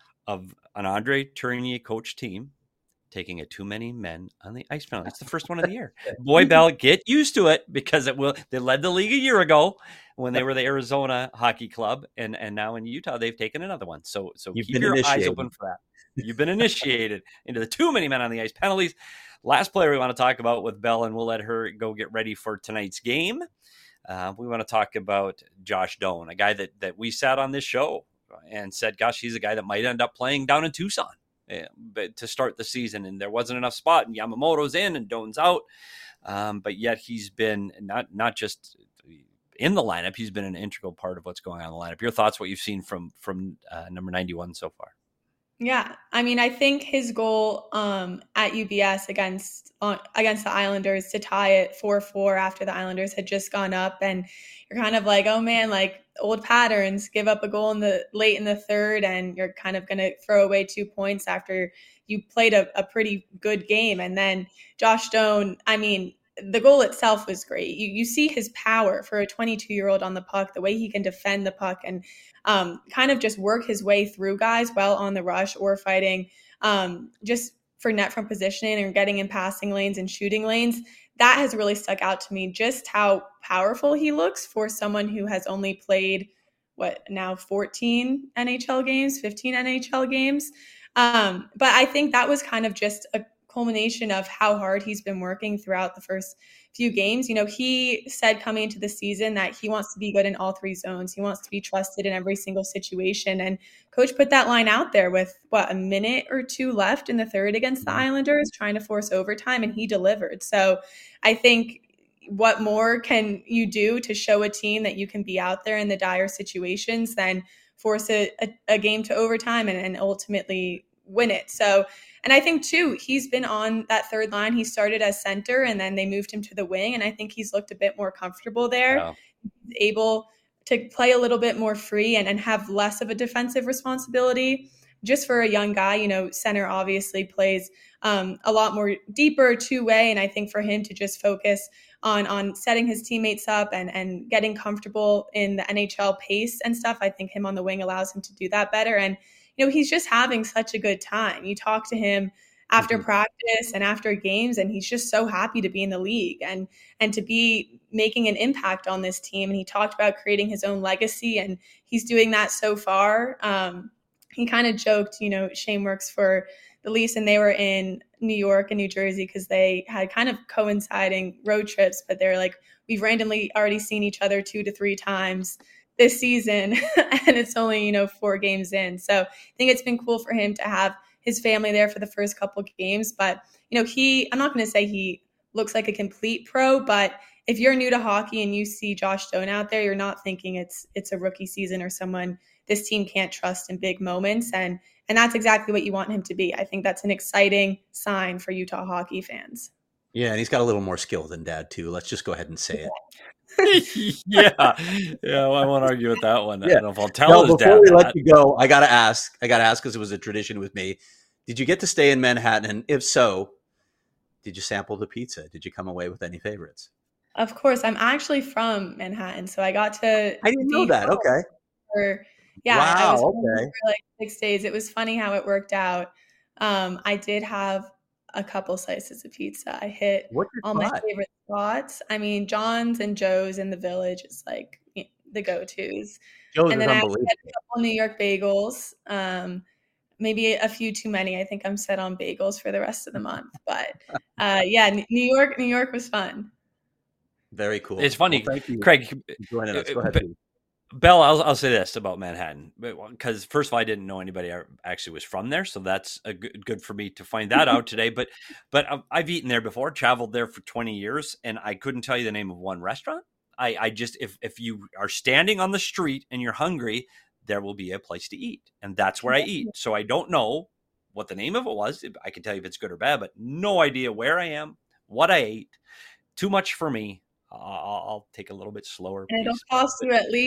of an Andre Tourigny coach team taking a too many men on the ice penalty. It's the first one of the year. Boy, Bell, get used to it, because it will. They led the league a year ago when they were the Arizona Hockey Club, and and now in Utah they've taken another one. So so You've keep been your initiated. eyes open for that. You've been initiated into the too many men on the ice penalties. Last player we want to talk about with Bell, and we'll let her go get ready for tonight's game. Uh, we want to talk about Josh Doan, a guy that that we sat on this show and said, gosh, he's a guy that might end up playing down in Tucson. Yeah, but to start the season, and there wasn't enough spot, and Yamamoto's in and Doan's out, um, but yet he's been not not just in the lineup, he's been an integral part of what's going on in the lineup. Your thoughts, what you've seen from from uh, number ninety-one so far? Yeah, I mean, I think his goal um, at U B S against uh, against the Islanders to tie it four four after the Islanders had just gone up, and you're kind of like, oh man, like old patterns, give up a goal in the late in the third, and you're kind of going to throw away two points after you played a, a pretty good game. And then Josh Doan, I mean, the goal itself was great. You you see his power for a twenty-two-year-old on the puck, the way he can defend the puck and um, kind of just work his way through guys while on the rush or fighting um, just for net front positioning and getting in passing lanes and shooting lanes. That has really stuck out to me, just how powerful he looks for someone who has only played, what, now fourteen N H L games, fifteen N H L games. Um, but I think that was kind of just a culmination of how hard he's been working throughout the first few games. You know, he said coming into the season that he wants to be good in all three zones. He wants to be trusted in every single situation. And coach put that line out there with what, a minute or two left in the third against the Islanders, trying to force overtime, and he delivered. So I think, what more can you do to show a team that you can be out there in the dire situations than force a, a, a game to overtime and, and ultimately win it? So, and I think too, he's been on that third line. He started as center and then they moved him to the wing. And I think he's looked a bit more comfortable there. Wow. He's able to play a little bit more free and, and have less of a defensive responsibility. Just for a young guy, you know, center obviously plays um, a lot more deeper two-way. And I think for him to just focus on on setting his teammates up and, and getting comfortable in the N H L pace and stuff, I think him on the wing allows him to do that better. And you know, he's just having such a good time. You talk to him after mm-hmm. practice and after games, and he's just so happy to be in the league and and to be making an impact on this team. And he talked about creating his own legacy, and he's doing that so far. Um, he kind of joked, you know, Shane works for the Leafs, and they were in New York and New Jersey because they had kind of coinciding road trips, but they're like, we've randomly already seen each other two to three times this season, and it's only, you know, four games in. So I think it's been cool for him to have his family there for the first couple of games. But, you know, he, I'm not going to say he looks like a complete pro, but if you're new to hockey and you see Josh Doan out there, you're not thinking it's it's a rookie season or someone this team can't trust in big moments. And and that's exactly what you want him to be. I think that's an exciting sign for Utah hockey fans. Yeah, and he's got a little more skill than Dad, too. Let's just go ahead and say it. yeah, yeah. Well, I won't argue with that one. Yeah. I don't know if I'll tell no, his before dad we that. let you go, I gotta ask. I gotta ask because it was a tradition with me. Did you get to stay in Manhattan? And if so, did you sample the pizza? Did you come away with any favorites? Of course, I'm actually from Manhattan, so I got to. I didn't know that. Okay. For, yeah, wow. I was okay. for like six days. It was funny how it worked out. Um, I did have a couple slices of pizza. I hit all my favorite spots. I mean, John's and Joe's in the Village is like you know, the go-tos. Joe's and then is I had unbelievable. a couple New York bagels. Um, maybe a few too many. I think I'm set on bagels for the rest of the month. But uh, yeah, New York, New York was fun. Very cool. It's funny, well, thank you. Craig. Joining us. Go ahead, but, Bell, I'll, I'll say this about Manhattan, because first of all, I didn't know anybody actually was from there, so that's a good, good for me to find that out today. But but I've eaten there before, traveled there for twenty years, and I couldn't tell you the name of one restaurant. I, I just, if if you are standing on the street and you're hungry, there will be a place to eat, and that's where I eat. So I don't know what the name of it was. I can tell you if it's good or bad, but no idea where I am, what I ate. Too much for me. I'll, I'll take a little bit slower. And it'll cost you at least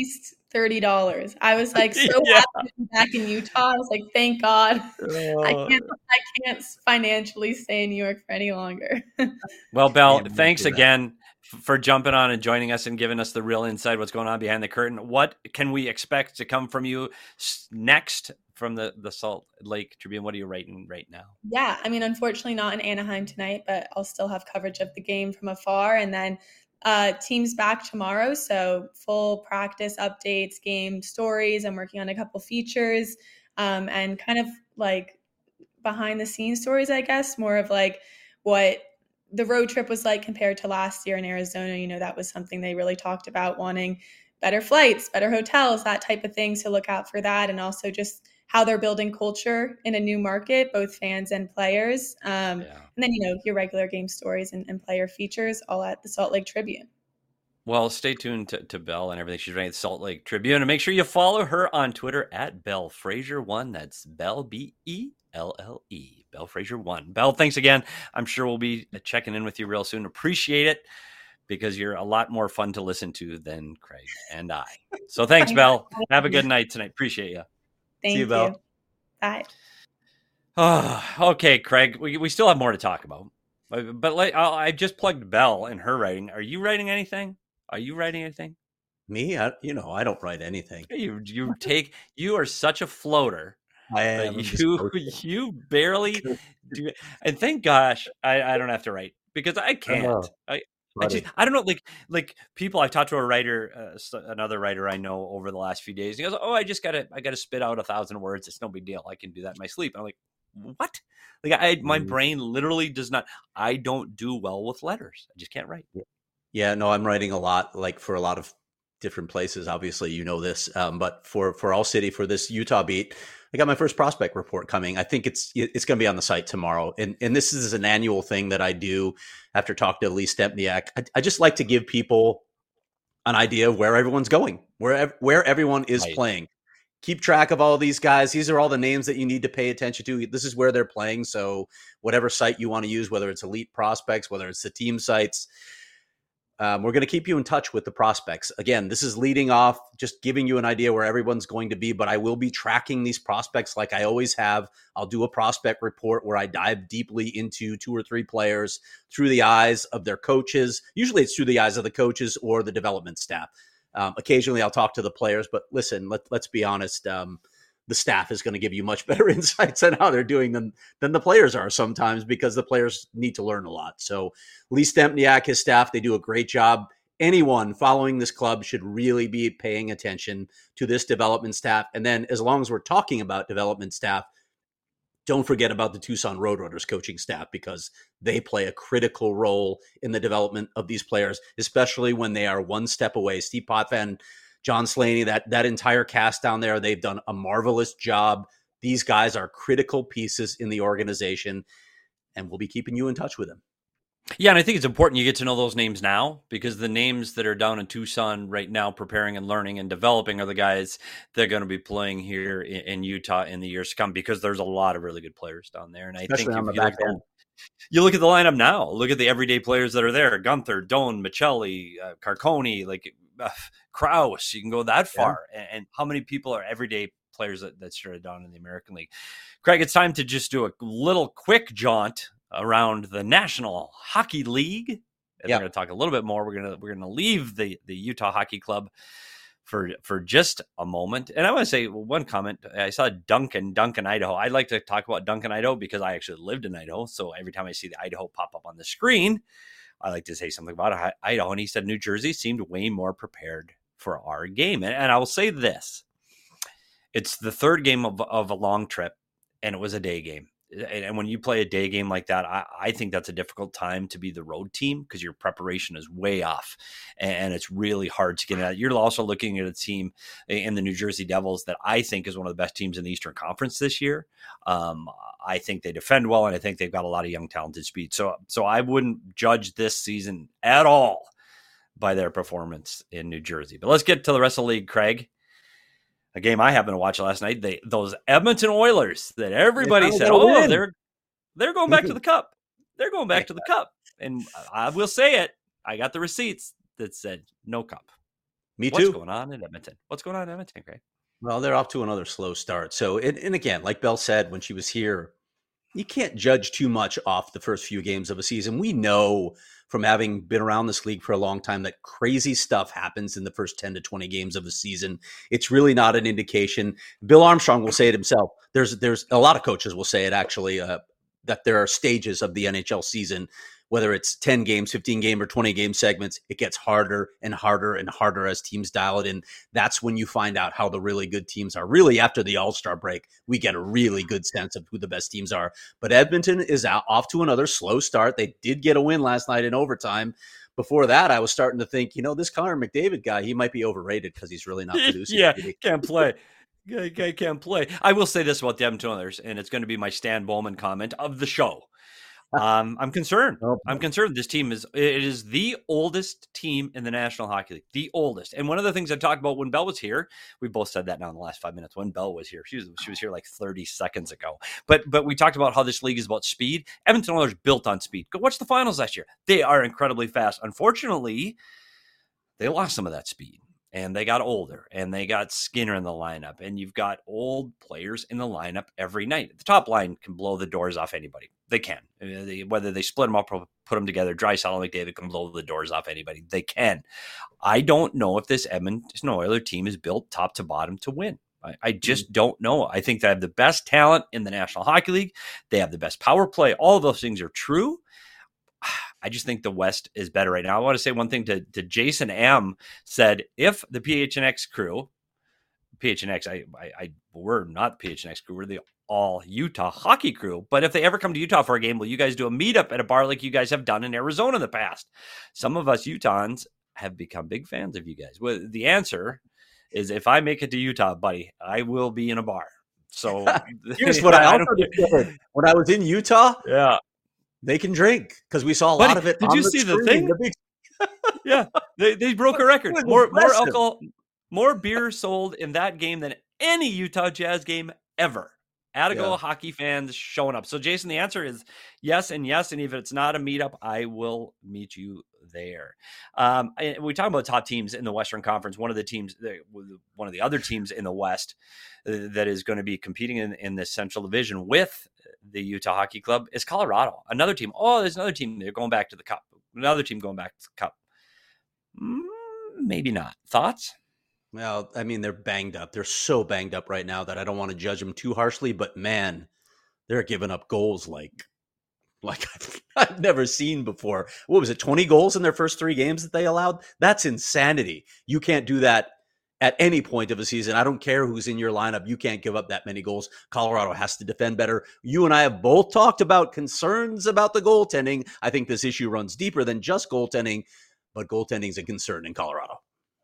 thirty dollars. I was like so yeah. happy to be back in Utah. I was like, thank God. Oh. I can't I can't financially stay in New York for any longer. Well, Belle, thanks again for jumping on and joining us and giving us the real insight what's going on behind the curtain. What can we expect to come from you next from the, the Salt Lake Tribune? What are you writing right now? Yeah, I mean, unfortunately not in Anaheim tonight, but I'll still have coverage of the game from afar. And then uh, team's back tomorrow, so full practice updates, game stories. I'm working on a couple features um, and kind of like behind the scenes stories, I guess, more of like what the road trip was like compared to last year in Arizona. You know, that was something they really talked about, wanting better flights, better hotels, that type of thing. So look out for that. And also just how they're building culture in a new market, both fans and players. Um, yeah. And then, you know, your regular game stories and, and player features all at the Salt Lake Tribune. Well, stay tuned to, to Belle and everything she's writing at the Salt Lake Tribune. And make sure you follow her on Twitter at Belle Fraser one. That's Belle, B E L L E, Belle Fraser one. Belle, thanks again. I'm sure we'll be checking in with you real soon. Appreciate it, because you're a lot more fun to listen to than Craig and I. So thanks, Belle. Have a good night tonight. Appreciate you. Thank See you, you. Belle. Bye. Oh, okay, Craig. We we still have more to talk about, but, but like I just plugged Belle in her writing. Are you writing anything? Are you writing anything? Me? I, you know, I don't write anything. You you take you are such a floater. I am. You you barely do. And thank gosh I, I don't have to write, because I can't. Oh. I. I, just, I don't know, like like people. I've talked to a writer, uh, another writer I know over the last few days. He goes, "Oh, I just gotta, I gotta spit out a thousand words. It's no big deal. I can do that in my sleep." I'm like, "What?" Like, I, my mm. brain literally does not. I don't do well with letters. I just can't write. Yeah, no, I'm writing a lot, like for a lot of different places. Obviously, you know this, um, but for for All City, for this Utah beat, I got my first prospect report coming. I think it's it's going to be on the site tomorrow. And and this is an annual thing that I do after talking to Lee Stempniak. I, I just like to give people an idea of where everyone's going, where, where everyone is right. playing. Keep track of all these guys. These are all the names that you need to pay attention to. This is where they're playing. So whatever site you want to use, whether it's Elite Prospects, whether it's the team sites, Um, we're going to keep you in touch with the prospects. Again, this is leading off, just giving you an idea where everyone's going to be, but I will be tracking these prospects like I always have. I'll do a prospect report where I dive deeply into two or three players through the eyes of their coaches. Usually it's through the eyes of the coaches or the development staff. Um, occasionally I'll talk to the players, but listen, let, let's be honest. Um, the staff is going to give you much better insights on how they're doing than, than the players are sometimes, because the players need to learn a lot. So Lee Stempniak, his staff, they do a great job. Anyone following this club should really be paying attention to this development staff. And then as long as we're talking about development staff, don't forget about the Tucson Roadrunners coaching staff, because they play a critical role in the development of these players, especially when they are one step away. Steve Potvin, John Slaney, that that entire cast down there, they've done a marvelous job. These guys are critical pieces in the organization, and we'll be keeping you in touch with them. Yeah, and I think it's important you get to know those names now, because the names that are down in Tucson right now preparing and learning and developing are the guys that are going to be playing here in, in Utah in the years to come, because there's a lot of really good players down there. And I Especially think on if the you, back look end. you look at the lineup now, look at the everyday players that are there: Gunther, Doan, Michelli, uh, Carconi, like uh, Kraus. You can go that far. Yeah. And, and how many people are everyday players that, that started down in the American League? Craig, it's time to just do a little quick jaunt around the National Hockey League. And yep. We're going to talk a little bit more. We're going to we're going to leave the, the Utah Hockey Club for for just a moment. And I want to say one comment. I saw Duncan, Duncan, Idaho. I'd like to talk about Duncan, Idaho, because I actually lived in Idaho. So every time I see the Idaho pop up on the screen, I like to say something about Idaho. And he said New Jersey seemed way more prepared for our game. And, and I will say this. It's the third game of, of a long trip, and it was a day game. And when you play a day game like that, I, I think that's a difficult time to be the road team, because your preparation is way off, and it's really hard to get at. You're also looking at a team in the New Jersey Devils that I think is one of the best teams in the Eastern Conference this year. Um, I think they defend well, and I think they've got a lot of young, talented speed. So, so I wouldn't judge this season at all by their performance in New Jersey. But let's get to the rest of the league, Craig. A game I happened to watch last night, they those Edmonton Oilers that everybody said, oh, win. they're they're going back to the Cup. They're going back to the Cup. And I will say it, I got the receipts that said no Cup. Me What's too. going on in Edmonton? What's going on in Edmonton, Greg? Well, they're off to another slow start. So, and, and again, like Bell said when she was here, you can't judge too much off the first few games of a season. We know from having been around this league for a long time that crazy stuff happens in the first ten to twenty games of a season. It's really not an indication. Bill Armstrong will say it himself. There's there's a lot of coaches will say it actually, uh, that there are stages of the N H L season, whether it's ten games, fifteen game or twenty game segments. It gets harder and harder and harder as teams dial it in. That's when you find out how the really good teams are. Really, after the All-Star break, we get a really good sense of who the best teams are. But Edmonton is out, off to another slow start. They did get a win last night in overtime. Before that, I was starting to think, you know, this Connor McDavid guy, he might be overrated because he's really not producing. Yeah, can't play. I can't play. I will say this about the Edmonton Oilers, and it's going to be my Stan Bowman comment of the show. Um, I'm concerned. Oh, I'm concerned. This team is it is the oldest team in the National Hockey League, the oldest. And one of the things I talked about when Bell was here, we both said that now in the last five minutes. When Bell was here, she was she was here like thirty seconds ago. But but we talked about how this league is about speed. Edmonton Oilers built on speed. Go watch the finals last year. They are incredibly fast. Unfortunately, they lost some of that speed. And they got older, and they got Skinner in the lineup, and you've got old players in the lineup every night. The top line can blow the doors off anybody. They can. They, whether they split them up or put them together, Draisaitl and McDavid can blow the doors off anybody. They can. I don't know if this Edmonton Oilers team is built top to bottom to win. I, I just don't know. I think they have the best talent in the National Hockey League. They have the best power play. All of those things are true. I just think the West is better right now. I want to say one thing to, to Jason M. said, if the P H N X crew, P H N X, I, I, I we're not the P H N X crew, we're the all Utah hockey crew. But if they ever come to Utah for a game, will you guys do a meetup at a bar like you guys have done in Arizona in the past? Some of us Utahns have become big fans of you guys. Well, the answer is if I make it to Utah, buddy, I will be in a bar. So here's what I also did when I was in Utah. Yeah. They can drink because we saw a Buddy, lot of it. Did on you the see screen. the thing? The big... Yeah, they they broke a record. More more alcohol, more beer sold in that game than any Utah Jazz game ever. Attigo yeah. hockey fans showing up. So, Jason, the answer is yes and yes. And if it's not a meetup, I will meet you there. Um, we talk about top teams in the Western Conference. One of the teams, one of the other teams in the West that is going to be competing in, in this Central Division with the Utah Hockey Club is Colorado. Another team. Oh, there's another team. They're going back to the Cup. Another team going back to the Cup. Mm, maybe not. Thoughts? Well, I mean, they're banged up. They're so banged up right now that I don't want to judge them too harshly, but man, they're giving up goals like, like I've, I've never seen before. What was it? twenty goals in their first three games that they allowed? That's insanity. You can't do that at any point of a season. I don't care who's in your lineup. You can't give up that many goals. Colorado has to defend better. You and I have both talked about concerns about the goaltending. I think this issue runs deeper than just goaltending, but goaltending is a concern in Colorado.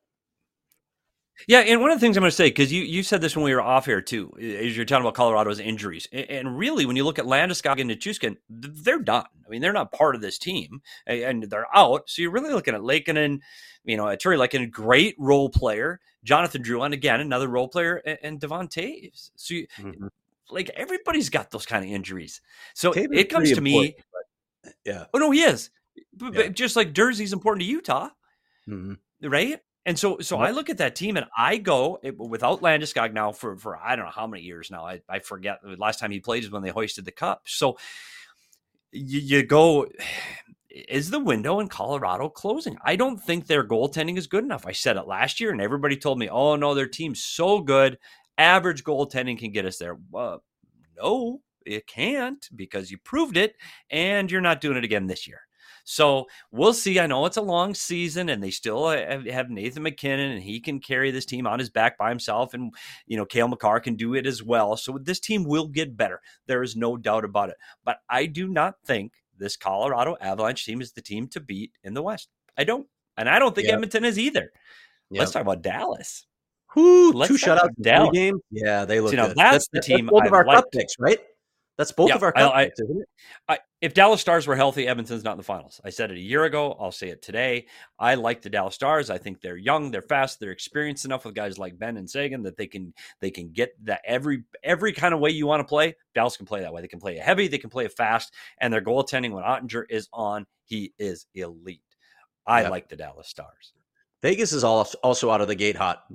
Yeah, and one of the things I'm going to say, because you, you said this when we were off here too, is you're talking about Colorado's injuries. And really, when you look at Landeskog and Nichushkin, they're done. I mean, they're not part of this team, and they're out. So you're really looking at Lankinen, you know, Terry Lankinen, great role player, Jonathan Drouin, again, another role player, and Devon Toews. So, you, mm-hmm. like, everybody's got those kind of injuries. So Taves it comes to me. But, yeah. Oh, no, he is. But, yeah. but just like Durzi's important to Utah, mm-hmm. right? And so so yep. I look at that team and I go it, without Landeskog now for, for I don't know how many years now. I, I forget. The last time he played is when they hoisted the cup. So you, you go, is the window in Colorado closing? I don't think their goaltending is good enough. I said it last year and everybody told me, oh, no, their team's so good. Average goaltending can get us there. Well, no, it can't because you proved it and you're not doing it again this year. So we'll see. I know it's a long season and they still have Nathan McKinnon and he can carry this team on his back by himself. And, you know, Cale Makar can do it as well. So this team will get better. There is no doubt about it. But I do not think this Colorado Avalanche team is the team to beat in the West. I don't. And I don't think yep. Edmonton is either. Yep. Let's talk about Dallas. Whoo, two shutouts Dallas game. Yeah, they look so, you know, good. That's, that's the team. That's both of our cup picks, right? That's both yeah, of our cup I, picks, isn't it? I, if Dallas Stars were healthy, Edmonton's not in the finals. I said it a year ago. I'll say it today. I like the Dallas Stars. I think they're young, they're fast, they're experienced enough with guys like Ben and Sagan that they can they can get that every every kind of way you want to play. Dallas can play that way. They can play it heavy, they can play it fast, and their goaltending when Ottinger is on, he is elite. I yep. like the Dallas Stars. Vegas is also out of the gate hot.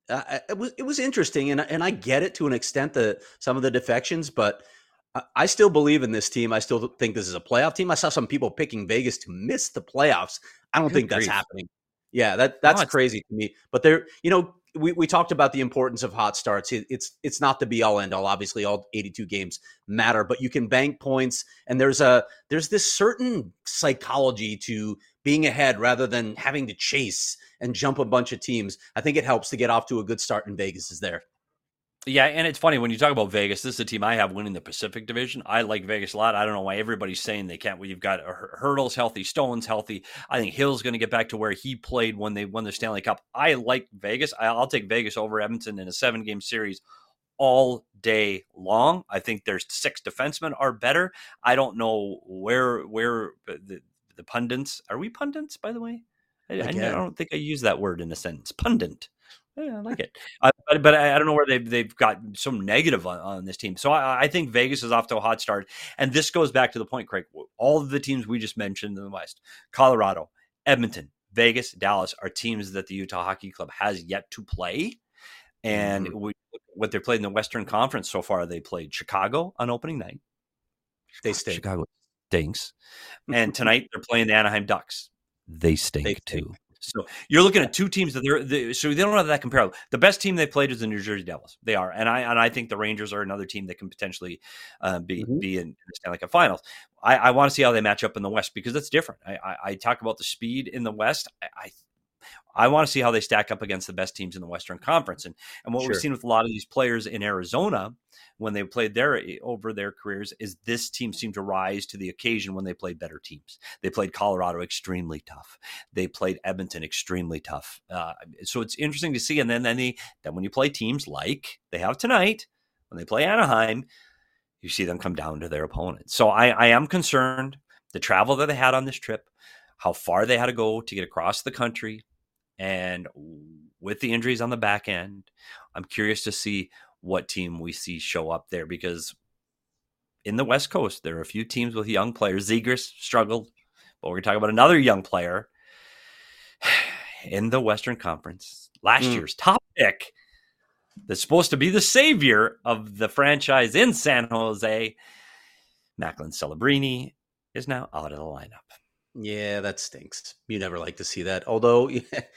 It was it was interesting, and and I get it to an extent, that some of the defections, but I still believe in this team. I still think this is a playoff team. I saw some people picking Vegas to miss the playoffs. I don't Good think that's grief. happening. Yeah, that that's no, crazy to me. But there, you know, we, we talked about the importance of hot starts. It, it's it's not the be all end all. Obviously, all eighty-two games matter, but you can bank points, and there's a there's this certain psychology to being ahead rather than having to chase and jump a bunch of teams. I think it helps to get off to a good start, and Vegas is there. Yeah, and it's funny when you talk about Vegas. This is a team I have winning the Pacific Division. I like Vegas a lot. I don't know why everybody's saying they can't. Well, you've got Hurdles healthy, Stone's healthy. I think Hill's going to get back to where he played when they won the Stanley Cup. I like Vegas. I'll take Vegas over Edmonton in a seven-game series all day long. I think their six defensemen are better. I don't know where where the, the pundits are. We pundits, by the way? I, I, I don't think I use that word in a sentence. Pundit. Yeah, I like it, uh, but but I, I don't know where they've they've got some negative on, on this team. So I, I think Vegas is off to a hot start, and this goes back to the point, Craig. All of the teams we just mentioned in the West, Colorado, Edmonton, Vegas, Dallas, are teams that the Utah Hockey Club has yet to play, and mm-hmm. we, what they played in the Western Conference so far, they played Chicago on opening night. They stink. Chicago stinks, and tonight they're playing the Anaheim Ducks. They stink, they stink. too. So you're looking at two teams that they're they, so they don't have that comparable. The best team they played is the New Jersey Devils. They are, and I and I think the Rangers are another team that can potentially uh, be mm-hmm. be in the Stanley Cup Finals. I, I want to see how they match up in the West because that's different. I, I, I talk about the speed in the West. I, I I want to see how they stack up against the best teams in the Western Conference. And and what sure. we've seen with a lot of these players in Arizona when they played their over their careers is this team seemed to rise to the occasion when they played better teams. They played Colorado extremely tough. They played Edmonton extremely tough. Uh, so it's interesting to see. And then then, they, then when you play teams like they have tonight, when they play Anaheim, you see them come down to their opponents. So I, I am concerned the travel that they had on this trip, how far they had to go to get across the country. And with the injuries on the back end, I'm curious to see what team we see show up there because in the West Coast, there are a few teams with young players. Zegras struggled, but we're going to talk about another young player in the Western Conference. Last mm. year's top pick that's supposed to be the savior of the franchise in San Jose, Macklin Celebrini, is now out of the lineup. Yeah, that stinks. You never like to see that. Although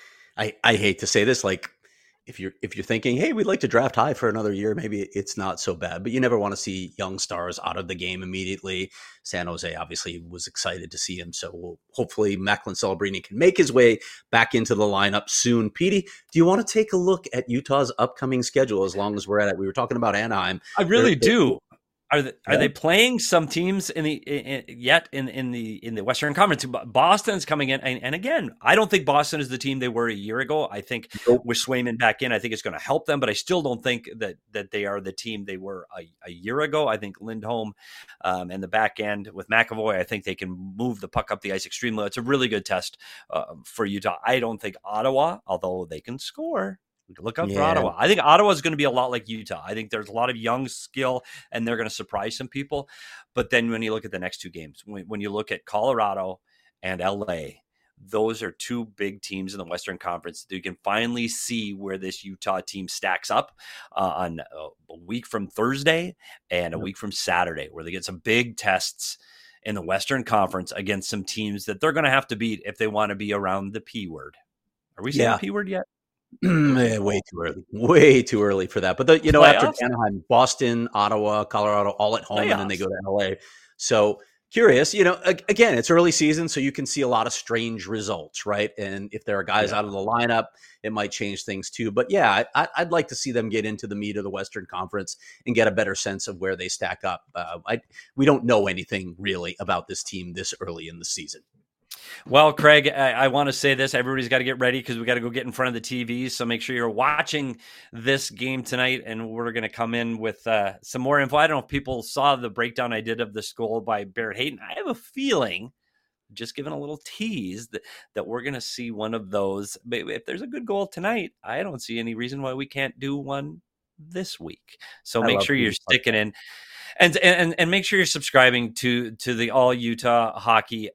I, I hate to say this, like if you're if you're thinking, hey, we'd like to draft high for another year, maybe it's not so bad. But you never want to see young stars out of the game immediately. San Jose obviously was excited to see him, so we'll, hopefully Macklin Celebrini can make his way back into the lineup soon. Petey, do you want to take a look at Utah's upcoming schedule? As long as we're at it, we were talking about Anaheim. I really they're, do. They're, Are they, are yeah. they playing some teams in the in, yet in, in the in the Western Conference? Boston's coming in, and, and again, I don't think Boston is the team they were a year ago. I think nope. with Swayman back in, I think it's going to help them, but I still don't think that that they are the team they were a, a year ago. I think Lindholm um, and the back end with McAvoy, I think they can move the puck up the ice extremely. It's a really good test uh, for Utah. I don't think Ottawa, although they can score. Look out yeah. for Ottawa. I think Ottawa is going to be a lot like Utah. I think there's a lot of young skill, and they're going to surprise some people. But then when you look at the next two games, when, when you look at Colorado and L A, those are two big teams in the Western Conference. You can finally see where this Utah team stacks up uh, on a week from Thursday and a week from Saturday, where they get some big tests in the Western Conference against some teams that they're going to have to beat if they want to be around the P word. Are we saying yeah. the P word yet? yeah, way too early. Way too early for that. But, the, you know, Playoffs? After Anaheim, Boston, Ottawa, Colorado, all at home, Playoffs. And then they go to L A. So curious, you know, again, it's early season, so you can see a lot of strange results, right? And if there are guys yeah. out of the lineup, it might change things too. But yeah, I, I'd like to see them get into the meat of the Western Conference and get a better sense of where they stack up. Uh, I, we don't know anything really about this team this early in the season. Well, Craig, I, I want to say this. Everybody's got to get ready because we got to go get in front of the T Vs. So make sure you're watching this game tonight, and we're going to come in with uh, some more info. I don't know if people saw the breakdown I did of this goal by Barrett Hayton. I have a feeling, just giving a little tease, that, that we're going to see one of those. But if there's a good goal tonight, I don't see any reason why we can't do one this week. So I make sure you're sticking in. And, and and make sure you're subscribing to to the All Utah Hockey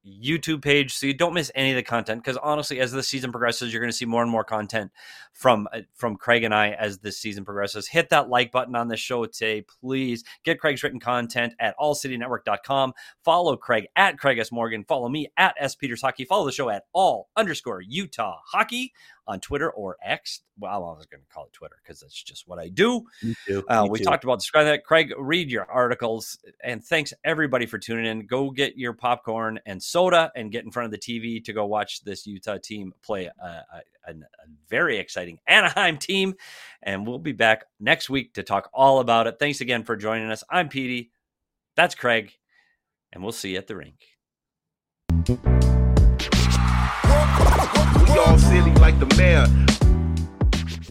YouTube page so you don't miss any of the content, because honestly, as the season progresses, you're going to see more and more content from from Craig and I as this season progresses. Hit that like button on this show today, please. Get Craig's written content at all city network dot com. Follow Craig at Craig S. Morgan. Follow me at S. Peters Hockey. Follow the show at all underscore Utah Hockey on Twitter or X. Well, I was going to call it Twitter because that's just what I do. Me too. Uh, Me we too. talked about describing that. Craig, read your articles. And thanks, everybody, for tuning in. Go get your popcorn and soda and get in front of the T V to go watch this Utah team play a, a, a, a very exciting Anaheim team. And we'll be back next week to talk all about it. Thanks again for joining us. I'm Petey. That's Craig. And we'll see you at the rink. We all silly like the mayor.